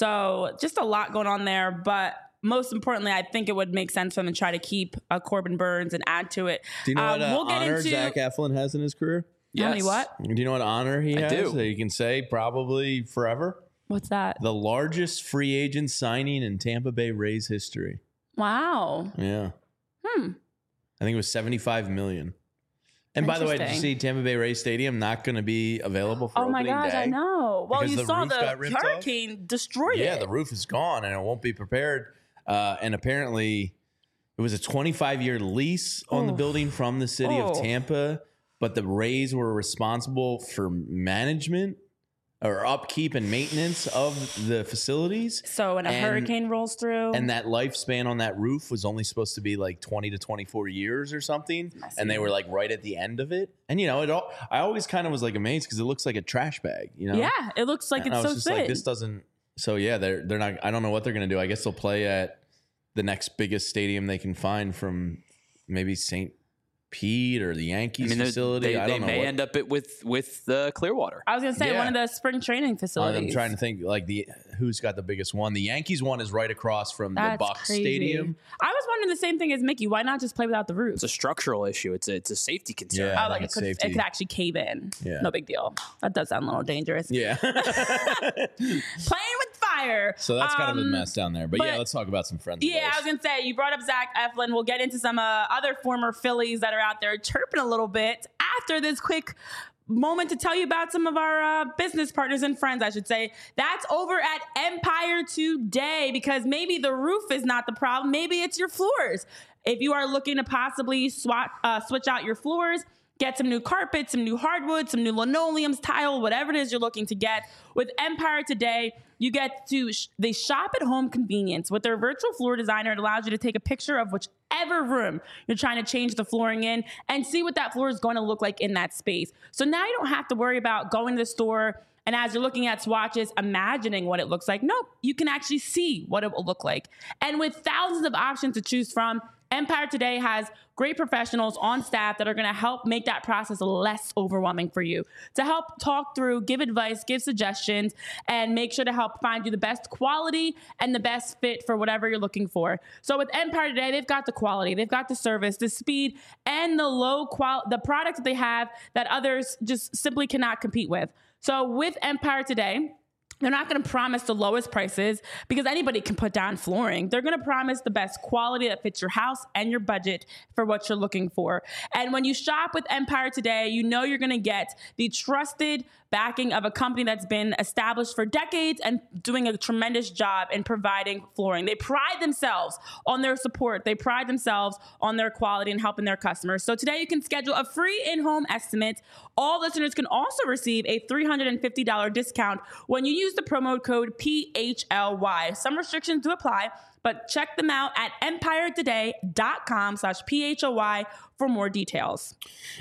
So just a lot going on there. But most importantly, I think it would make sense for them to try to keep uh, Corbin Burns and add to it. Do you know Uh, what uh, we'll get honor into Zach Eflin has in his career? How many Yes. what? Do you know what honor he I has do. that you can say probably forever? What's that? The largest free agent signing in Tampa Bay Rays history. Wow. Yeah. Hmm. I think it was seventy-five million. And by the way, did you Interesting. see Tampa Bay Rays Stadium not going to be available for Oh my opening gosh, day? I know. Well, Because you the saw roof got the ripped off? hurricane destroyed Yeah, it. the roof is gone and it won't be prepared. Uh, and apparently, it was a twenty-five year lease on the Oof. building from the city of Oh. Tampa, but the Rays were responsible for management or upkeep and maintenance of the facilities. So when a And- hurricane rolls through, And that lifespan on that roof was only supposed to be like twenty to twenty-four years or something. And they were like right at the end of it. And, you know, it all, I always kind of was like amazed because it looks like a trash bag, you know? yeah, it looks like And it's I was so just thin. like, this doesn't. So yeah, they're they're not. I don't know what they're gonna do. I guess they'll play at the next biggest stadium they can find from maybe Saint Pete or the Yankees I mean, they're- facility. they, I they don't know. may what- end up it with with uh, Clearwater. I was gonna say Yeah. one of the spring training facilities. I'm trying to think like the who's got the biggest one. The Yankees one is right across from That's the Bucks crazy. Stadium. I was wondering the same thing as Mickey. Why not just play without the roof? It's a structural issue. It's a, it's a safety concern. Yeah. Oh, like it's it could, it safety. could actually cave in. Yeah. No big deal. That does sound a little dangerous. Yeah. Playing with fire. So that's kind of a Um, mess down there. But, but- yeah, let's talk about some friends. Yeah, of I ours. was gonna say you brought up Zach Eflin. We'll get into some uh, other former Phillies that are out there chirping a little bit after this quick moment to tell you about some of our uh, business partners and friends, I should say. That's over at Empire Today, because maybe the roof is not the problem. Maybe it's your floors. If you are looking to possibly swap, uh, switch out your floors, get some new carpet, some new hardwood, some new linoleums, tile, whatever it is you're looking to get. With Empire Today, you get to, sh- they shop at home convenience. With their virtual floor designer, it allows you to take a picture of whichever room you're trying to change the flooring in and see what that floor is going to look like in that space. So now you don't have to worry about going to the store and as you're looking at swatches, imagining what it looks like. Nope, you can actually see what it will look like. And with thousands of options to choose from, Empire Today has great professionals on staff that are going to help make that process less overwhelming for you, to help talk through, give advice, give suggestions, and make sure to help find you the best quality and the best fit for whatever you're looking for. So with Empire Today, they've got the quality, they've got the service, the speed, and the low qual the product that they have that others just simply cannot compete with. So with Empire Today, they're not going to promise the lowest prices because anybody can put down flooring. They're going to promise the best quality that fits your house and your budget for what you're looking for. And when you shop with Empire Today, you know you're going to get the trusted backing of a company that's been established for decades and doing a tremendous job in providing flooring. They pride themselves on their support. They pride themselves on their quality and helping their customers. So today you can schedule a free in-home estimate. All listeners can also receive a three hundred fifty dollars discount when you use the promo code P H L Y. Some restrictions do apply, but check them out at empiretoday.com slash P H O Y for more details.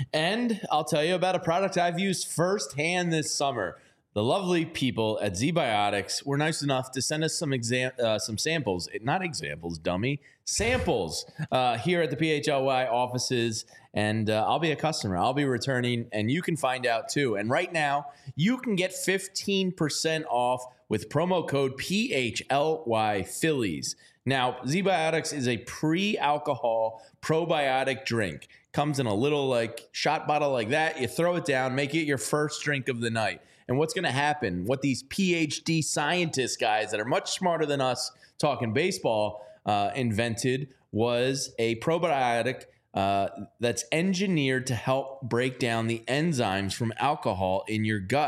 And I'll tell you about a product I've used firsthand this summer. The lovely people at ZBiotics were nice enough to send us some exam, uh, some samples, not examples, dummy, samples uh, here at the P H L Y offices. And uh, I'll be a customer. I'll be returning, and you can find out too. And right now, you can get fifteen percent off with promo code P H L Y Phillies. Now, ZBiotics is a pre-alcohol probiotic drink. Comes in a little like shot bottle like that. You throw it down, make it your first drink of the night. And what's going to happen, what these P H D scientists guys that are much smarter than us talking baseball uh, invented was a probiotic uh, that's engineered to help break down the enzymes from alcohol in your gut.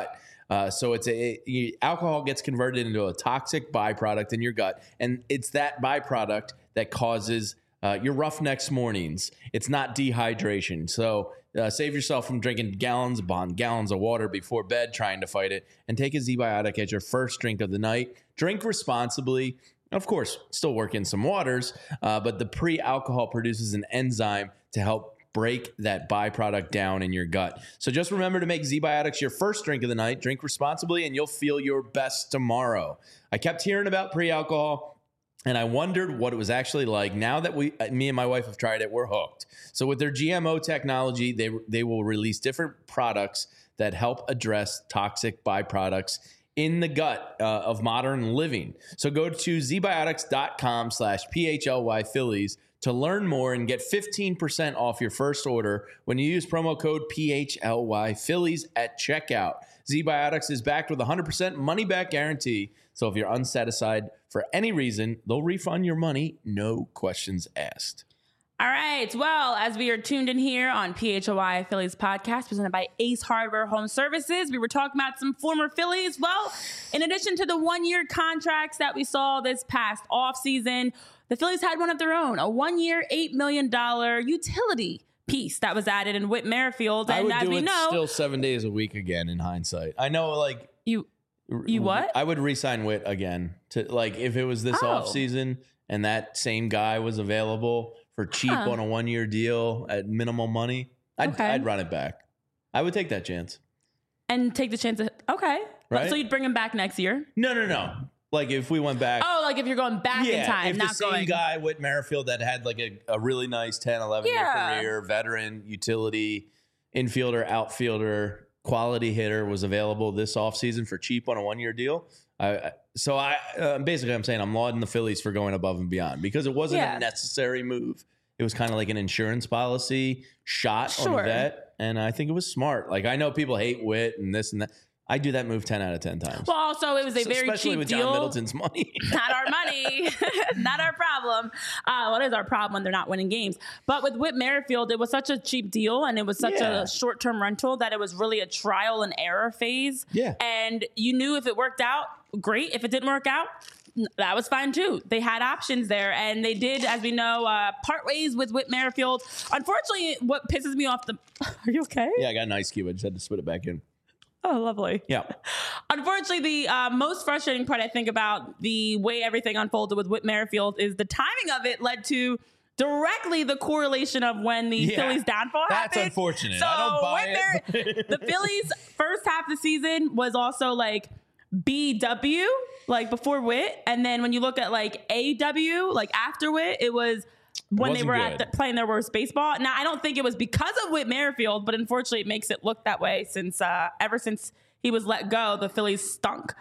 Uh, so it's a it, alcohol gets converted into a toxic byproduct in your gut, and it's that byproduct that causes uh, your rough next mornings. It's not dehydration. So uh, save yourself from drinking gallons upon gallons of water before bed trying to fight it, and take a Z-Biotic as your first drink of the night. Drink responsibly. Of course, still work in some waters, uh, but the pre-alcohol produces an enzyme to help break that byproduct down in your gut. So just remember to make Z-Biotics your first drink of the night. Drink responsibly, and you'll feel your best tomorrow. I kept hearing about pre-alcohol, and I wondered what it was actually like. Now that we, me and my wife have tried it, we're hooked. So with their G M O technology, they they will release different products that help address toxic byproducts in the gut uh, of modern living. So go to zbiotics.com slash PHLY Phillies to learn more and get fifteen percent off your first order when you use promo code P H L Y Phillies at checkout. Z-Biotics is backed with a one hundred percent money-back guarantee. So if you're unsatisfied for any reason, they'll refund your money, no questions asked. All right. Well, as we are tuned in here on P H L Y Phillies podcast presented by Ace Hardware Home Services, we were talking about some former Phillies. Well, in addition to the one-year contracts that we saw this past offseason, the Phillies had one of their own, a one-year, eight million dollars utility piece that was added in Whit Merrifield. And I would as do we it know, still seven days a week again in hindsight. I know, like... You, you what? I would re-sign Whit again. To like, if it was this Oh. offseason and that same guy was available for cheap Huh. on a one-year deal at minimal money, I'd, Okay. I'd run it back. I would take that chance. And take the chance of, okay. Right? So you'd bring him back next year? No, no, no. Like if we went back. Oh, like if you're going back yeah, in time, if not the same going. guy, Whit Merrifield, that had like a, a really nice ten, eleven Yeah. year career, veteran, utility, infielder, outfielder, quality hitter was available this offseason for cheap on a one-year deal. I, I- so I uh, basically I'm saying I'm lauding the Phillies for going above and beyond because it wasn't Yeah. a necessary move. It was kind of like an insurance policy shot on Sure. a vet, and I think it was smart. Like I know people hate Whit and this and that. I do that move ten out of ten times. Well, also, it was a very Especially cheap with deal. John Middleton's money. Not our money, not our problem. Uh, what is our problem when they're not winning games? But with Whit Merrifield, it was such a cheap deal and it was such Yeah. a short-term rental that it was really a trial and error phase. Yeah. And you knew if it worked out, great. If it didn't work out, that was fine too. They had options there, and they did, as we know, uh, part ways with Whit Merrifield. Unfortunately, what pisses me off the... Are you okay? Yeah, I got an ice cube. I just had to spit it back in. Oh, lovely. Yeah. Unfortunately, the uh, most frustrating part I think about the way everything unfolded with Whit Merrifield is the timing of it led to directly the correlation of when the Yeah, Phillies' downfall that's happened. unfortunate. So I don't buy Whit it. Mer- the Phillies' first half of the season was also like B W, like before Whit, and then when you look at like A W, like after Whit, it was when they Wasn't were good. at the, playing their worst baseball. Now, I don't think it was because of Whit Merrifield, but unfortunately, it makes it look that way since uh, ever since he was let go, the Phillies stunk.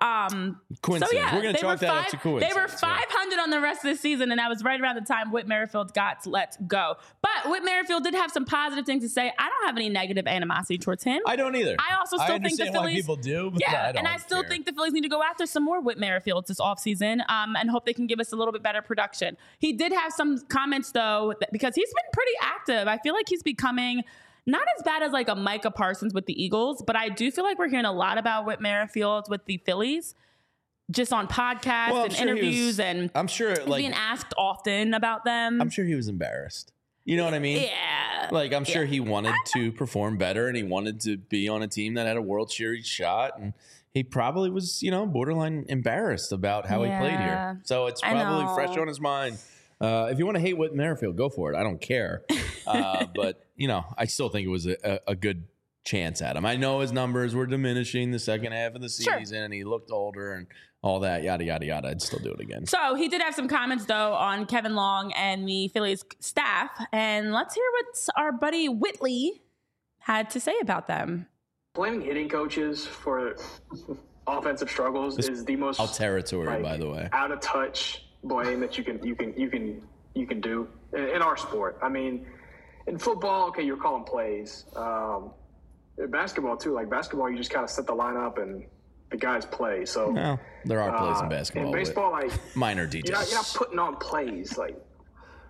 Um, Coincidence. So yeah, We're gonna they chalk were that up five, to coincidence, They were yeah. five hundred on the rest of the season, and that was right around the time Whit Merrifield got let go. But Whit Merrifield did have some positive things to say. I don't have any negative animosity towards him. I don't either. I also still think the understand why Phillies- people do, but Yeah, I don't and I still care. think the Phillies need to go after some more Whit Merrifields this offseason um, and hope they can give us a little bit better production. He did have some comments, though, that, because he's been pretty active. I feel like he's becoming not as bad as like a Micah Parsons with the Eagles, but I do feel like we're hearing a lot about Whit Merrifield with the Phillies just on podcasts Well, I'm and sure he interviews, was- and I'm sure, he's like, being asked often about them. I'm sure he was embarrassed. You know what I mean? Yeah. Like, I'm sure Yeah. he wanted to perform better, and he wanted to be on a team that had a World Series shot, and he probably was, you know, borderline embarrassed about how he played Yeah. here. So it's I probably know. fresh on his mind. Uh, if you want to hate Whit Merrifield, go for it. I don't care. Uh, but, you know, I still think it was a, a, a good chance at him. I know his numbers were diminishing the second half of the Sure. season, and he looked older and all that, yada, yada, yada. I'd still do it again. So he did have some comments, though, on Kevin Long and the Phillies staff. And let's hear what our buddy Whitley had to say about them. Blaming hitting coaches for offensive struggles This- is the most All territory, like, by the way. out of touch blame that you can you can you can you can do in, in our sport. I mean, in football, okay, you're calling plays. Um, in basketball too, like basketball, you just kind of set the lineup and the guys play. So Well, there are plays uh, in basketball. In but baseball, like minor you're details. not, you're not putting on plays. Like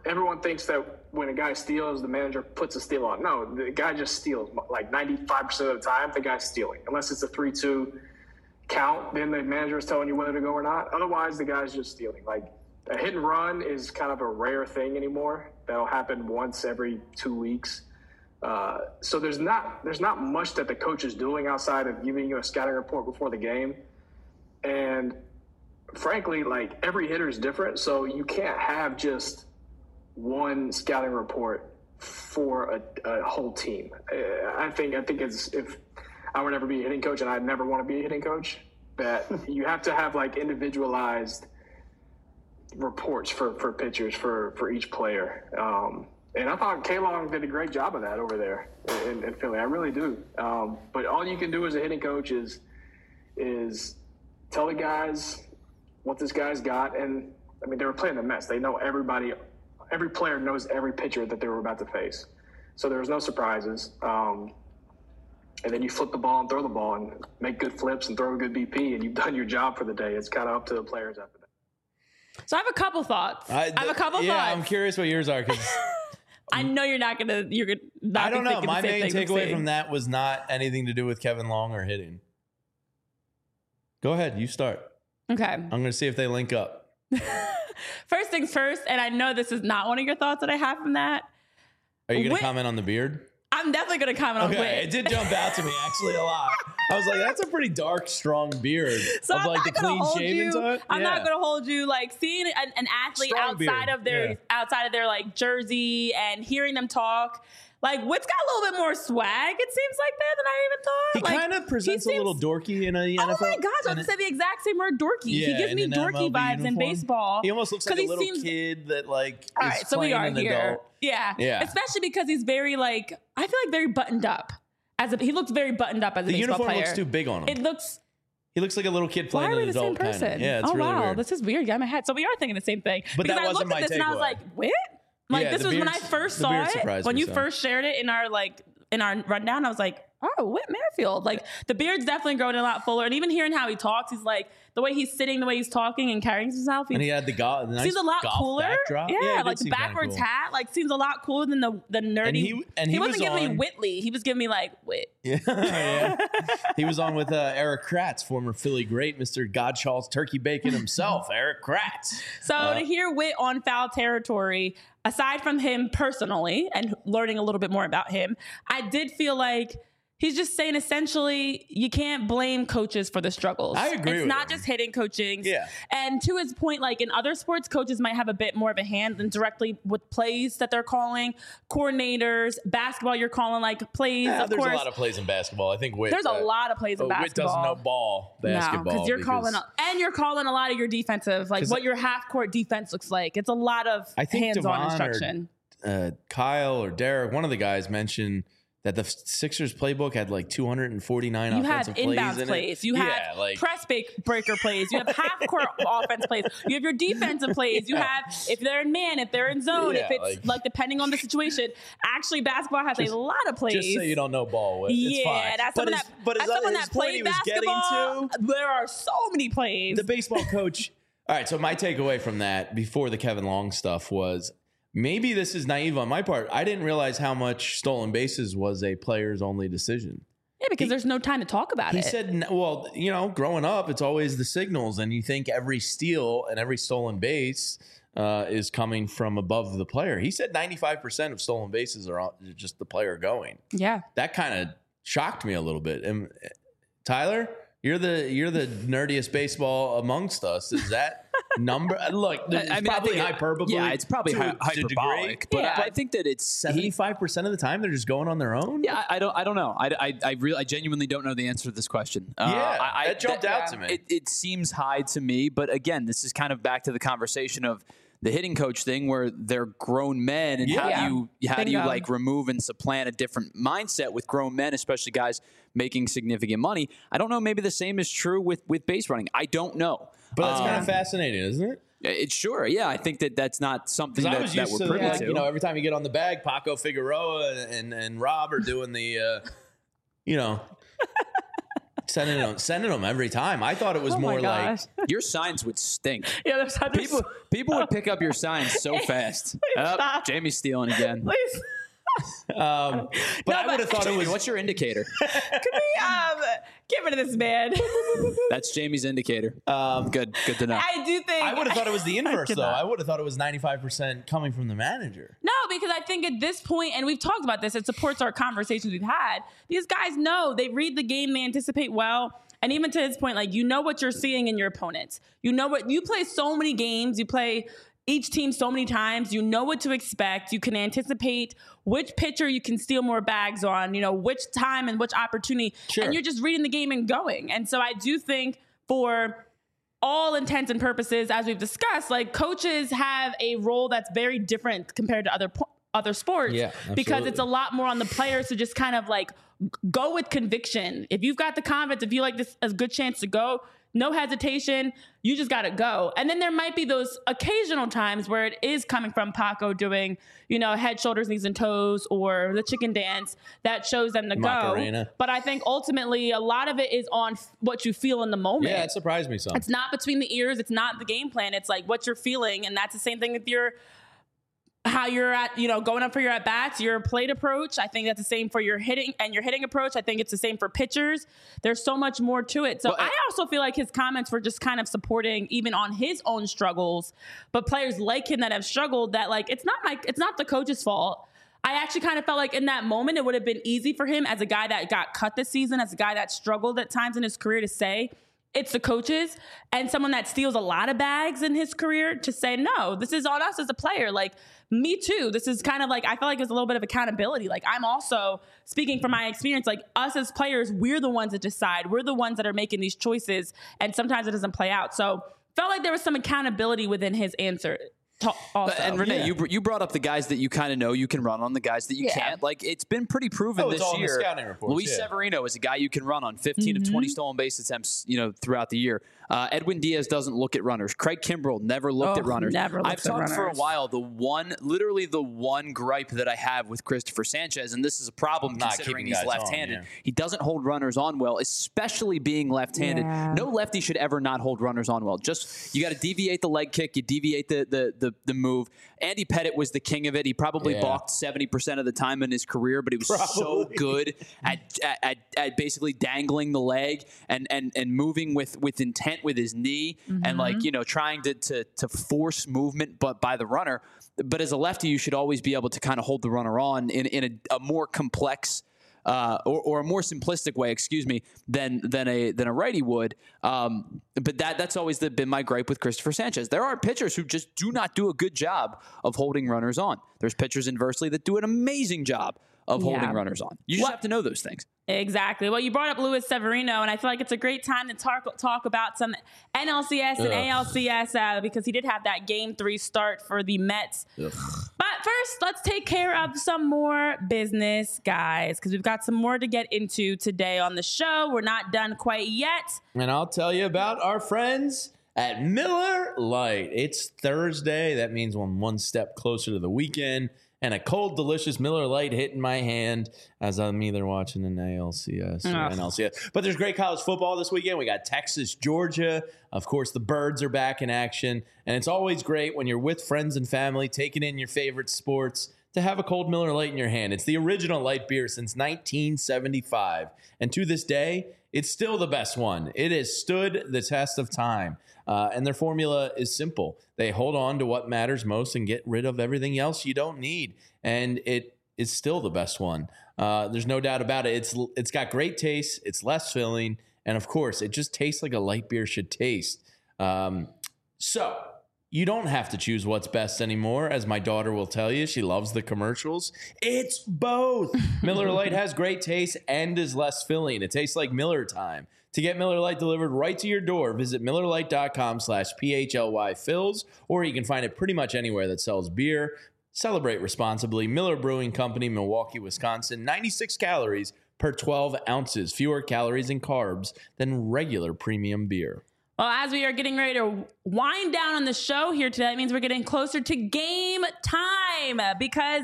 everyone thinks that when a guy steals, the manager puts a steal on. No, the guy just steals. Like ninety-five percent of the time, the guy's stealing. Unless it's a three two count, then the manager is telling you whether to go or not. Otherwise, the guy's just stealing. Like, a hit and run is kind of a rare thing anymore. That'll happen once every two weeks. Uh, so there's not there's not much that the coach is doing outside of giving you a scouting report before the game. And frankly, like, every hitter is different, so you can't have just one scouting report for a, a whole team. I think I think it's if I would ever be a hitting coach, and I'd never want to be a hitting coach, that you have to have like individualized reports for, for pitchers for, for each player. Um, and I thought K-Long did a great job of that over there in, in Philly. I really do. Um, but all you can do as a hitting coach is is tell the guys what this guy's got. And I mean, they were playing the Mets. They know everybody, every player knows every pitcher that they were about to face. So there was no surprises. Um, and then you flip the ball and throw the ball and make good flips and throw a good B P, and you've done your job for the day. It's kind of up to the players after that. So I have a couple thoughts. I, th- I have a couple yeah, thoughts. I'm curious what yours are, because I know you're not gonna. You're gonna. Not I don't know. My main takeaway from from that was not anything to do with Kevin Long or hitting. Go ahead, you start. Okay. I'm going to see if they link up. First things first, and I know this is not one of your thoughts that I have from that. Are you going Whit- to comment on the beard? I'm definitely going to comment okay, on Whit. It did jump out to me actually a lot. I was like, that's a pretty dark, strong beard. So of I'm like not the gonna clean hold shaven you. type. I'm yeah. not going to hold you. Like, seeing an, an athlete Strong outside beard. of their Yeah. outside of their like jersey and hearing them talk. Like, Whit's got a little bit more swag, it seems like, there than I even thought. He like, kind of presents seems, a little dorky in a N F L. Oh my gosh, I and was to say the exact same word, dorky. Yeah, he gives me in an dorky M L B vibes in uniform. baseball. He almost looks like a he little seems, kid that like all is right, so we playing are an here. adult. Yeah. Yeah. Especially because he's very like, I feel like very buttoned up. As a, he looks very buttoned up as a The baseball uniform player. looks too big on him. It looks. He looks like a little kid Why playing are we an the same adult kind person? of. Yeah, it's oh really wow, weird. this is weird. Got my head. So we are thinking the same thing. But because that I wasn't looked at my this and I was takeaway. like, Whit? Like, Yeah, this the was when I beard- first the saw beard it. surprised When me you some. first shared it in our like in our rundown, I was like, oh, Whit Merrifield. Like, the beard's definitely growing a lot fuller. And even hearing how he talks, he's like, the way he's sitting, the way he's talking and carrying himself. And he had the golf. The nice seems a lot golf cooler. Backdrop. Yeah, Yeah, it like did the seem kinda backwards cool. hat, like seems a lot cooler than the the nerdy. And he- and he wasn't was giving me on- Whitley. He was giving me like Whit. Yeah, yeah. He was on with uh, Eric Kratz, former Philly great, Mister Godshall's turkey bacon himself, Eric Kratz. So Uh, to hear Whit on foul territory, aside from him personally and learning a little bit more about him, I did feel like he's just saying essentially you can't blame coaches for the struggles. I agree It's with not him. just hitting coaching. Yeah. And to his point, like in other sports, coaches might have a bit more of a hand than directly with plays that they're calling. Coordinators, basketball, you're calling like plays. Yeah, of there's course, a lot of plays in basketball. I think Whit. there's a uh, lot of plays in oh, Whit basketball. doesn't know ball basketball. No, because you're calling a, and you're calling a lot of your defensive, like 'Cause what your half court defense looks like. It's a lot of I think hands-on Devon instruction. Or, uh, Kyle or Derek, one of the guys mentioned that the Sixers playbook had like two hundred forty-nine You have offensive plays inbound in plays. it. You yeah, have like, press break- breaker plays. You have half court offense plays. You have your defensive plays. You Yeah. have if they're in man, if they're in zone, Yeah, if it's like- like, depending on the situation. Actually, basketball has Just- a lot of plays. Just say you don't know ball. Whit. It's yeah, fine. that's but someone his, that, but his, that's someone his that point played he was basketball. getting to, There are so many plays. the baseball coach. All right, so my takeaway from that before the Kevin Long stuff was maybe this is naive on my part. I didn't realize how much stolen bases was a player's only decision. yeah, because he- there's no time to talk about He it. said, n- well, you know, growing up, it's always the signals, and you think every steal and every stolen base uh, is coming from above the player. He said ninety-five percent of stolen bases are all- just the player going. yeah. That kind of shocked me a little bit. And uh, Tyler, you're the you're the nerdiest baseball amongst us. Is that number? Look, it's I mean, I probably think it- hyperbole. Yeah, it's probably to- hy- to a degree. hyperbolic, but Yeah. I, I think that it's seventy-five percent of the time they're just going on their own. Yeah, I, I don't. I don't know. I, I, I really, I genuinely don't know the answer to this question. Uh, Yeah, I, I, that jumped out to me. It, it seems high to me, but again, this is kind of back to the conversation of the hitting coach thing, where they're grown men, and how Yeah. do you how do you Bingo. like remove and supplant a different mindset with grown men, especially guys making significant money? I don't know. Maybe the same is true with with base running. I don't know. But that's Um, kind of fascinating, isn't it? It's sure. Yeah, I think that that's not something Because I that, was that used we're to, privy like, to. you know, every time you get on the bag, Paco Figueroa and, and, and Rob are doing the, uh, you know, Sending them, sending them every time. I thought it was Oh more my like gosh. Your signs would stink. Yeah, there's, there's People people would pick up your signs so fast. Oh, stop. Jamie's stealing again. Please. Um, but No, I would have thought it was. What's your indicator? Can we um, get rid of this man? That's Jamie's indicator. Um, Good, good to know. I do think I would have thought it was the inverse, though. cannot. I would have thought it was ninety-five percent coming from the manager. No, because I think at this point, and we've talked about this, it supports our conversations we've had. These guys know, they read the game, they anticipate well. And even to this point, like, you know what you're seeing in your opponents. You know what, you play so many games, you play each team so many times, you know what to expect. You can anticipate which pitcher you can steal more bags on, you know, which time and which opportunity. Sure. And you're just reading the game and going. And so I do think for all intents and purposes, as we've discussed, like, coaches have a role that's very different compared to other po- other sports, Yeah, because absolutely. it's a lot more on the players to just kind of like g- go with conviction. If you've got the confidence, if you like this a good chance to go, no hesitation, you just got to go. And then there might be those occasional times where it is coming from Paco doing, you know, head, shoulders, knees, and toes, or the chicken dance that shows them to Macarena. go. But I think ultimately a lot of it is on f- what you feel in the moment. Yeah, it surprised me some. It's not between the ears. It's not the game plan. It's like what you're feeling. And that's the same thing with your, how you're at, you know, going up for your at bats, your plate approach. I think that's the same for your hitting and your hitting approach. I think it's the same for pitchers. There's so much more to it. So Well, I- I also feel like his comments were just kind of supporting even on his own struggles, but players like him that have struggled, that like, it's not my, it's not the coach's fault. I actually kind of felt like in that moment, it would have been easy for him as a guy that got cut this season, as a guy that struggled at times in his career, to say, it's the coaches, and someone that steals a lot of bags in his career to say, no, this is on us as a player. Like, me too. This is kind of like, I feel like there's a little bit of accountability. Like, I'm also speaking from my experience, like, us as players, we're the ones that decide. We're the ones that are making these choices, and sometimes it doesn't play out. So felt like there was some accountability within his answer. to- Also. And Renee, Yeah. you br- you brought up the guys that you kind of know you can run on, the guys that you Yeah. can't. Like, it's been pretty proven Oh, it's this all in the year. scouting reports, Luis yeah. Severino is a guy you can run on, fifteen of twenty stolen base attempts, you know, throughout the year. Uh, Edwin Diaz doesn't look at runners. Craig Kimbrell never looked Oh, at runners. never looked I've at talked for a runners. while. The one, literally the one gripe that I have with Christopher Sanchez, and this is a problem Not considering keeping he's guys on, left-handed. yeah. He doesn't hold runners on well, especially being left-handed. Yeah. No lefty should ever not hold runners on well. Just, you got to deviate the leg kick, you deviate the the the, the move. Andy Pettitte was the king of it. He probably Yeah. balked seventy percent of the time in his career, but he was so Probably. good at, at, at, at basically dangling the leg and, and, and moving with, with intent with his knee and, like, you know, trying to, to, to force movement but by the runner. But as a lefty, you should always be able to kind of hold the runner on in, in a, a more complex Uh, or, or a more simplistic way, excuse me, than than a than a righty would. Um, but that that's always the, been my gripe with Christopher Sanchez. There are pitchers who just do not do a good job of holding runners on. There's pitchers inversely that do an amazing job of holding Yeah. runners on. You just What- have to know those things. Exactly. Well, you brought up Luis Severino, and I feel like it's a great time to talk talk about some N L C S and Ugh. A L C S uh, because he did have that game three start for the Mets. Ugh. But first, let's take care of some more business, guys, because we've got some more to get into today on the show. We're not done quite yet. And I'll tell you about our friends at Miller Lite. It's Thursday. That means I'm one step closer to the weekend. And a cold, delicious Miller Lite hit in my hand as I'm either watching an A L C S or Ugh. N L C S. But there's great college football this weekend. We got Texas, Georgia. Of course, the Birds are back in action. And it's always great when you're with friends and family taking in your favorite sports to have a cold Miller Lite in your hand. It's the original light beer since nineteen seventy-five. And to this day, it's still the best one. It has stood the test of time. Uh, and their formula is simple. They hold on to what matters most and get rid of everything else you don't need. And it is still the best one. Uh, there's no doubt about it. It's It's got great taste. It's less filling. And of course, it just tastes like a light beer should taste. Um, so you don't have to choose what's best anymore. As my daughter will tell you, she loves the commercials. It's both. Miller Lite has great taste and is less filling. It tastes like Miller time. To get Miller Lite delivered right to your door, visit MillerLite.com slash PHLY fills, or you can find it pretty much anywhere that sells beer. Celebrate responsibly. Miller Brewing Company, Milwaukee, Wisconsin. ninety-six calories per twelve ounces. Fewer calories and carbs than regular premium beer. Well, as we are getting ready to wind down on the show here today, that means we're getting closer to game time because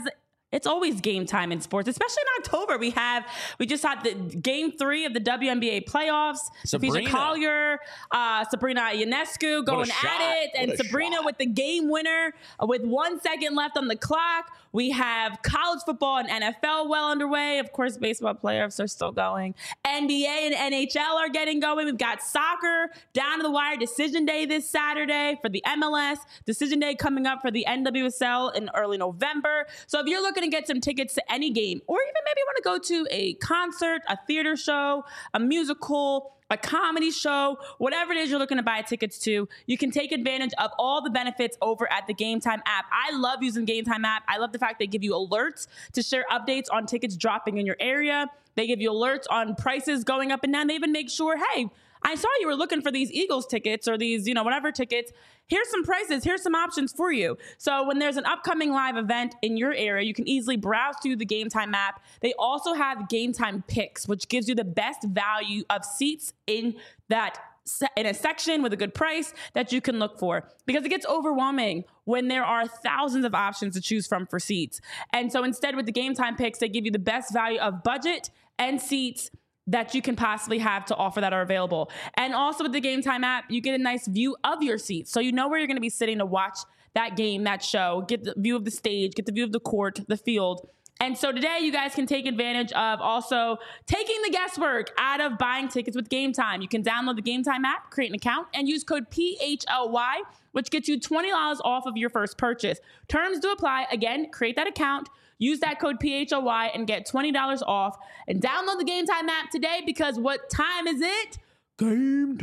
It's always game time in sports, especially in October. We have we just had the game three of the W N B A playoffs. Sabrina. Featured Collier, uh, Sabrina Ionescu going shot. at it, and What a Sabrina shot. with the game winner uh, with one second left on the clock. We have college football and N F L well underway. Of course, baseball playoffs are still going. N B A and N H L are getting going. We've got soccer down to the wire decision day this Saturday for the M L S. Decision day coming up for the N W S L in early November. So if you're looking to get some tickets to any game, or even maybe want to go to a concert, a theater show, a musical, a comedy show, whatever it is you're looking to buy tickets to, you can take advantage of all the benefits over at the Game Time app. I love using Game Time app. I love the fact they give you alerts to share updates on tickets dropping in your area. They give you alerts on prices going up and down. They even make sure, hey, I saw you were looking for these Eagles tickets or these, you know, whatever tickets. Here's some prices. Here's some options for you. So when there's an upcoming live event in your area, you can easily browse through the Game Time app. They also have Game Time Picks, which gives you the best value of seats in that in a section with a good price that you can look for, because it gets overwhelming when there are thousands of options to choose from for seats. And so instead with the Game Time Picks, they give you the best value of budget and seats that you can possibly have to offer that are available. And also with the Game Time app, you get a nice view of your seats. So you know where you're gonna be sitting to watch that game, that show, get the view of the stage, get the view of the court, the field. And so today you guys can take advantage of also taking the guesswork out of buying tickets with Game Time. You can download the Game Time app, create an account, and use code P H L Y, which gets you twenty dollars off of your first purchase. Terms do apply. Again, create that account, use that code P H L Y, and get twenty dollars off. And download the Game Time app today, because what time is it? Game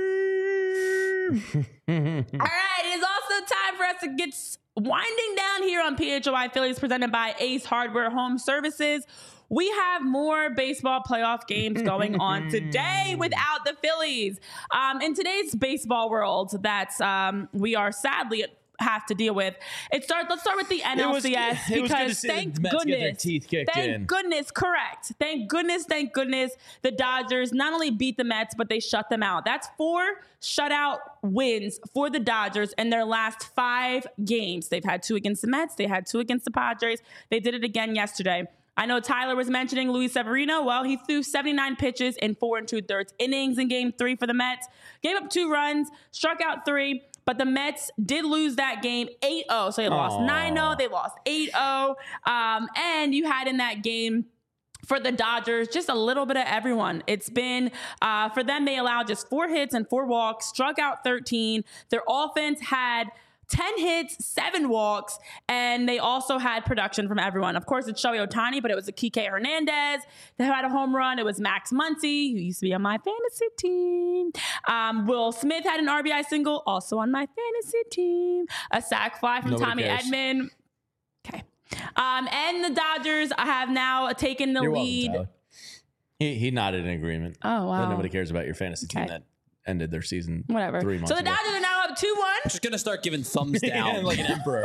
time. All right, it is also time for us to get winding down here on P H L Y Phillies, presented by Ace Hardware Home Services. We have more baseball playoff games going on today without the Phillies. Um, in today's baseball world, that's um, we are sadly have to deal with. It starts. Let's start with the N L C S, it was, it was good to because see thank the Mets goodness, get their teeth kicked thank in. goodness, correct. Thank goodness, thank goodness, the Dodgers not only beat the Mets, but they shut them out. That's four shutout wins for the Dodgers in their last five games. They've had two against the Mets. They had two against the Padres. They did it again yesterday. I know Tyler was mentioning Luis Severino. Well, he threw seventy-nine pitches in four and two thirds innings in game three for the Mets. Gave up two runs, struck out three. But the Mets did lose that game eight oh. So they lost nine oh. They lost eight oh. Um, and you had in that game for the Dodgers just a little bit of everyone. It's been, uh, for them, they allowed just four hits and four walks, struck out thirteen. Their offense had ten hits, seven walks, and they also had production from everyone. Of course, it's Shohei Ohtani, but it was a Kike Hernandez that had a home run. It was Max Muncy, who used to be on my fantasy team. Um, Will Smith had an R B I single, also on my fantasy team. A sac fly from Nobody Tommy cares. Edman. Okay. Um, and the Dodgers have now taken the You're lead. welcome, Tyler. He, he nodded in agreement. Oh, wow. That nobody cares about your fantasy team Okay. that ended their season Whatever. three months So the ago. Dodgers are now up two one. Just gonna start giving thumbs down. like an emperor.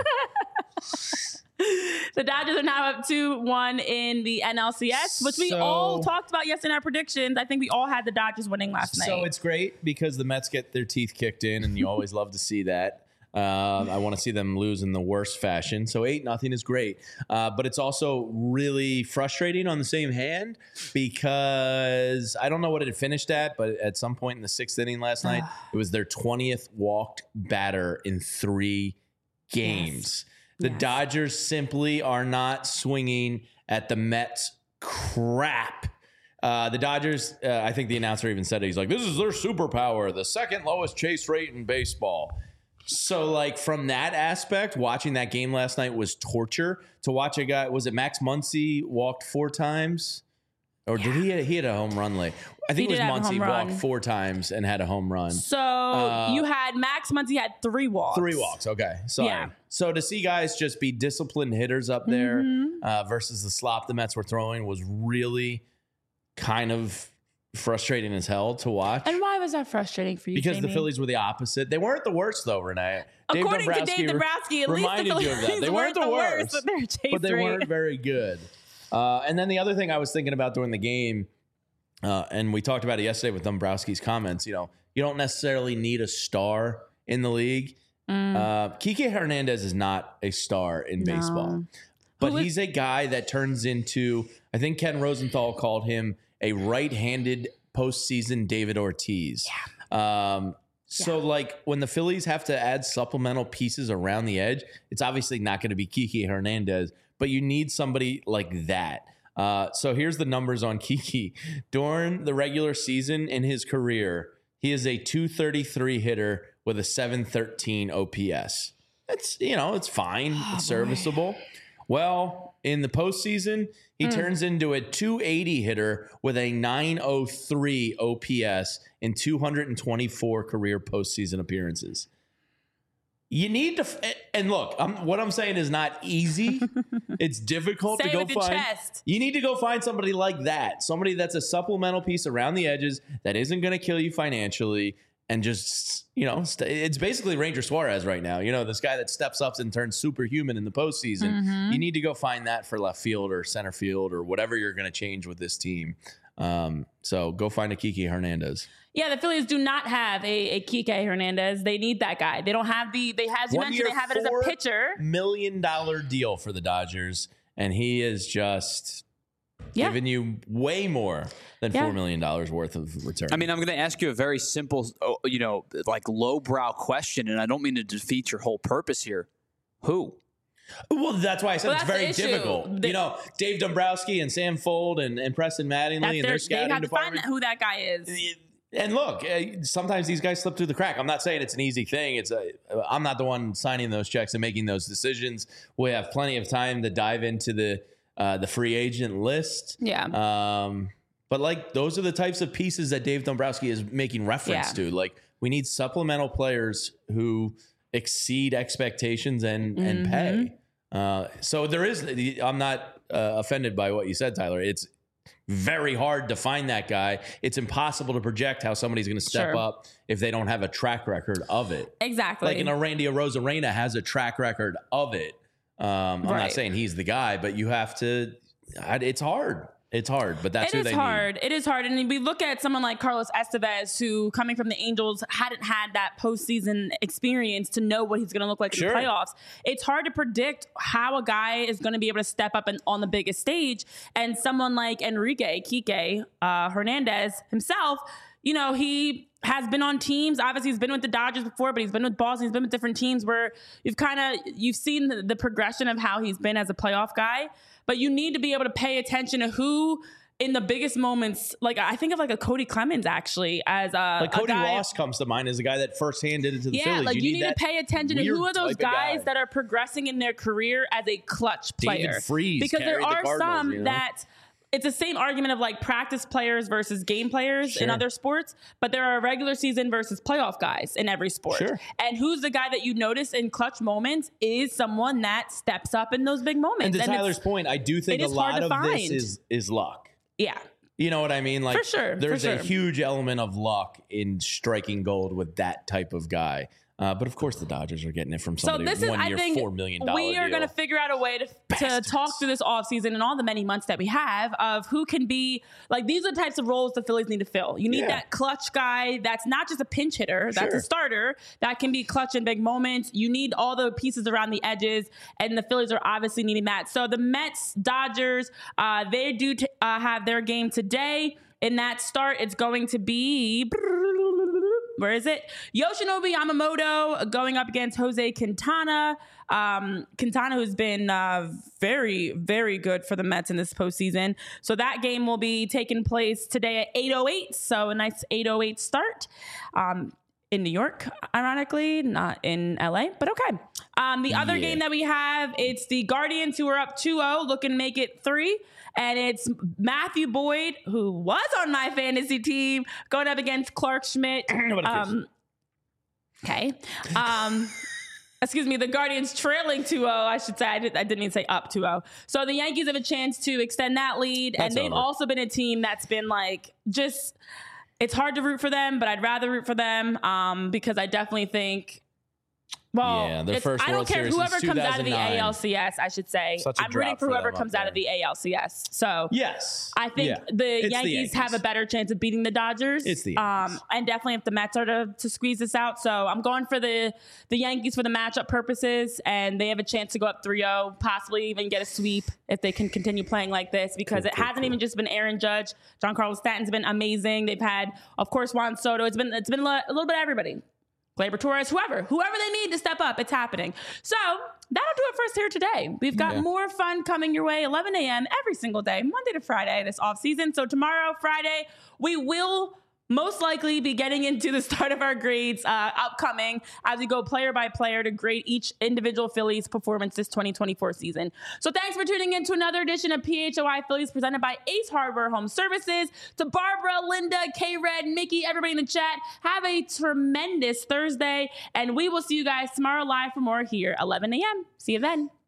The Dodgers are now up two one in the N L C S, which we So- all talked about yesterday in our predictions. I think we all had the Dodgers winning last night. So it's great because the Mets get their teeth kicked in, and you always love to see that. Um, I want to see them lose in the worst fashion. So eight nothing is great, uh, but it's also really frustrating on the same hand because I don't know what it had finished at, but at some point in the sixth inning last night, it was their twentieth walked batter in three games. The Yes. Dodgers simply are not swinging at the Mets crap. Uh, the Dodgers, uh, I think the announcer even said it. He's like, this is their superpower, the second lowest chase rate in baseball. So, like, from that aspect, watching that game last night was torture. To watch a guy, was it Max Muncy walked four times? Or did he, he had a home run late? I think He it was did have a Muncy home walked run. four times and had a home run. So Uh, you had Max Muncy had three walks. Three walks. Okay. Sorry. Yeah. So to see guys just be disciplined hitters up there Mm-hmm. uh, versus the slop the Mets were throwing was really kind of frustrating as hell to watch. And why was that frustrating for you, Because the Jamie? Phillies were the opposite. They weren't the worst, though, Renee. According to Dave Dombrowski, at least the reminded you of that. Phillies They weren't the worst, but they're chase but they rate. weren't very good. Uh, and then the other thing I was thinking about during the game, uh, and we talked about it yesterday with Dombrowski's comments, you know, you don't necessarily need a star in the league. Mm. Uh, Kike Hernandez is not a star in No. baseball. but was- he's a guy that turns into, I think Ken Rosenthal called him a right-handed postseason David Ortiz. Yeah. Um, so, yeah. like, when the Phillies have to add supplemental pieces around the edge, it's obviously not going to be Kiki Hernandez, but you need somebody like that. Uh, so here's the numbers on Kiki. During the regular season in his career, he is a two thirty-three hitter with a seven thirteen O P S. That's, you know, it's fine. Oh, it's serviceable. Boy. Well, in the postseason, he mm. turns into a two eighty hitter with a nine oh three O P S in two hundred twenty-four career postseason appearances. You need to, and look, I'm, what I'm saying is not easy. It's difficult Say to go with your find. chest. You need to go find somebody like that, somebody that's a supplemental piece around the edges that isn't going to kill you financially, and just, you know, st- it's basically Ranger Suarez right now. You know, this guy that steps up and turns superhuman in the postseason. Mm-hmm. You need to go find that for left field or center field or whatever you're going to change with this team. Um, so go find a Kiki Hernandez. Yeah, the Phillies do not have a, a Kike Hernandez. They need that guy. They don't have the, they as you One mentioned, year, they have it as a pitcher. Million dollar deal for the Dodgers, and he is just yeah. giving you way more than yeah. four million dollars worth of return. I mean, I'm going to ask you a very simple, you know, like lowbrow question, and I don't mean to defeat your whole purpose here. Who? Well, that's why I said well, it's very difficult. They, you know, Dave Dombrowski and Sam Fold and, and Preston Mattingly and their scouting they have to department. Find who that guy is. And look, sometimes these guys slip through the crack. I'm not saying it's an easy thing. It's a, I'm not the one signing those checks and making those decisions. We have plenty of time to dive into the uh, the free agent list. Yeah. Um, but like those are the types of pieces that Dave Dombrowski is making reference yeah. to. Like we need supplemental players who exceed expectations and mm-hmm. and pay. Uh, so there is. I'm not uh, offended by what you said, Tyler. It's very hard to find that guy. It's impossible to project how somebody's going to step sure. up if they don't have a track record of it. Exactly. Like, you know, Randy Arozarena has a track record of it. Um, I'm right. not saying he's the guy, but you have to, it's hard. It's hard, but that's it who is they hard. need. It is hard. And we look at someone like Carlos Estevez, who coming from the Angels hadn't had that postseason experience to know what he's going to look like sure. in the playoffs. It's hard to predict how a guy is going to be able to step up and on the biggest stage. And someone like Enrique Kike uh, Hernandez himself, you know, he has been on teams. Obviously, he's been with the Dodgers before, but he's been with Boston. He's been with different teams where you've kind of you've seen the, the progression of how he's been as a playoff guy. But you need to be able to pay attention to who in the biggest moments, like I think of like a Cody Clemens actually as a like Cody a guy, Ross comes to mind as a guy that firsthand did it to the yeah, Phillies. like you, you need, need to pay attention to who are those guys guy. that are progressing in their career as a clutch player. David Freese because there are the some you know? that. It's the same argument of like practice players versus game players sure. in other sports, but there are regular season versus playoff guys in every sport. Sure. And who's the guy that you notice in clutch moments is someone that steps up in those big moments. And to and Tyler's point, I do think a lot of find. this is is luck. Yeah. You know what I mean? Like for sure, there's for a sure. huge element of luck in striking gold with that type of guy. Uh, but of course, the Dodgers are getting it from somebody. So this is, one I year, think, four million dollars we are going to figure out a way to to talk through this offseason and all the many months that we have of who can be like these are the types of roles the Phillies need to fill. You need yeah. that clutch guy that's not just a pinch hitter, that's sure. a starter that can be clutch in big moments. You need all the pieces around the edges, and the Phillies are obviously needing that. So the Mets, Dodgers, uh, they do t- uh, have their game today. In that start, it's going to be. Where is it? Yoshinobu Yamamoto going up against Jose Quintana. Um, Quintana, who's been uh, very, very good for the Mets in this postseason. So that game will be taking place today at eight oh eight. So a nice eight oh eight start. Um, in New York, ironically, not in L A, but okay. Um, the other yeah. game that we have, it's the Guardians who are up two oh, looking to make it three. And it's Matthew Boyd, who was on my fantasy team, going up against Clark Schmidt. Um, okay. Um, excuse me, the Guardians trailing two oh, I should say. I, did, I didn't even say up two oh. So the Yankees have a chance to extend that lead. That's and they've over. also been a team that's been like just... It's hard to root for them, but I'd rather root for them um, because I definitely think Well, Yeah, their it's- first I don't World care Series whoever since comes out of the two thousand nine. A L C S, I should say. Such a I'm rooting drought for for whoever them comes up out of there. the A L C S. So Yes. I think Yeah. the It's Yankees, have a Yankees. better chance of beating the Dodgers. It's the um, Yankees. and definitely if the Mets are to, to squeeze this out. So I'm going for the the Yankees for the matchup purposes, and they have a chance to go up three oh, possibly even get a sweep if they can continue playing like this, because Cool, it cool, hasn't cool. even just been Aaron Judge. Giancarlo Stanton's been amazing. They've had, of course, Juan Soto. It's been it's been a little bit of everybody. Gleyber Torres, whoever, whoever they need to step up, it's happening. So that'll do it for us here today. We've got Yeah. more fun coming your way, eleven a.m. every single day, Monday to Friday this off season. So tomorrow, Friday, we will most likely be getting into the start of our grades uh, upcoming as we go player by player to grade each individual Phillies performance this twenty twenty-four season. So thanks for tuning in to another edition of P H O I Phillies presented by Ace Hardware Home Services. To Barbara, Linda, K-Red, Mickey, everybody in the chat, have a tremendous Thursday, and we will see you guys tomorrow live for more here, eleven a.m. See you then.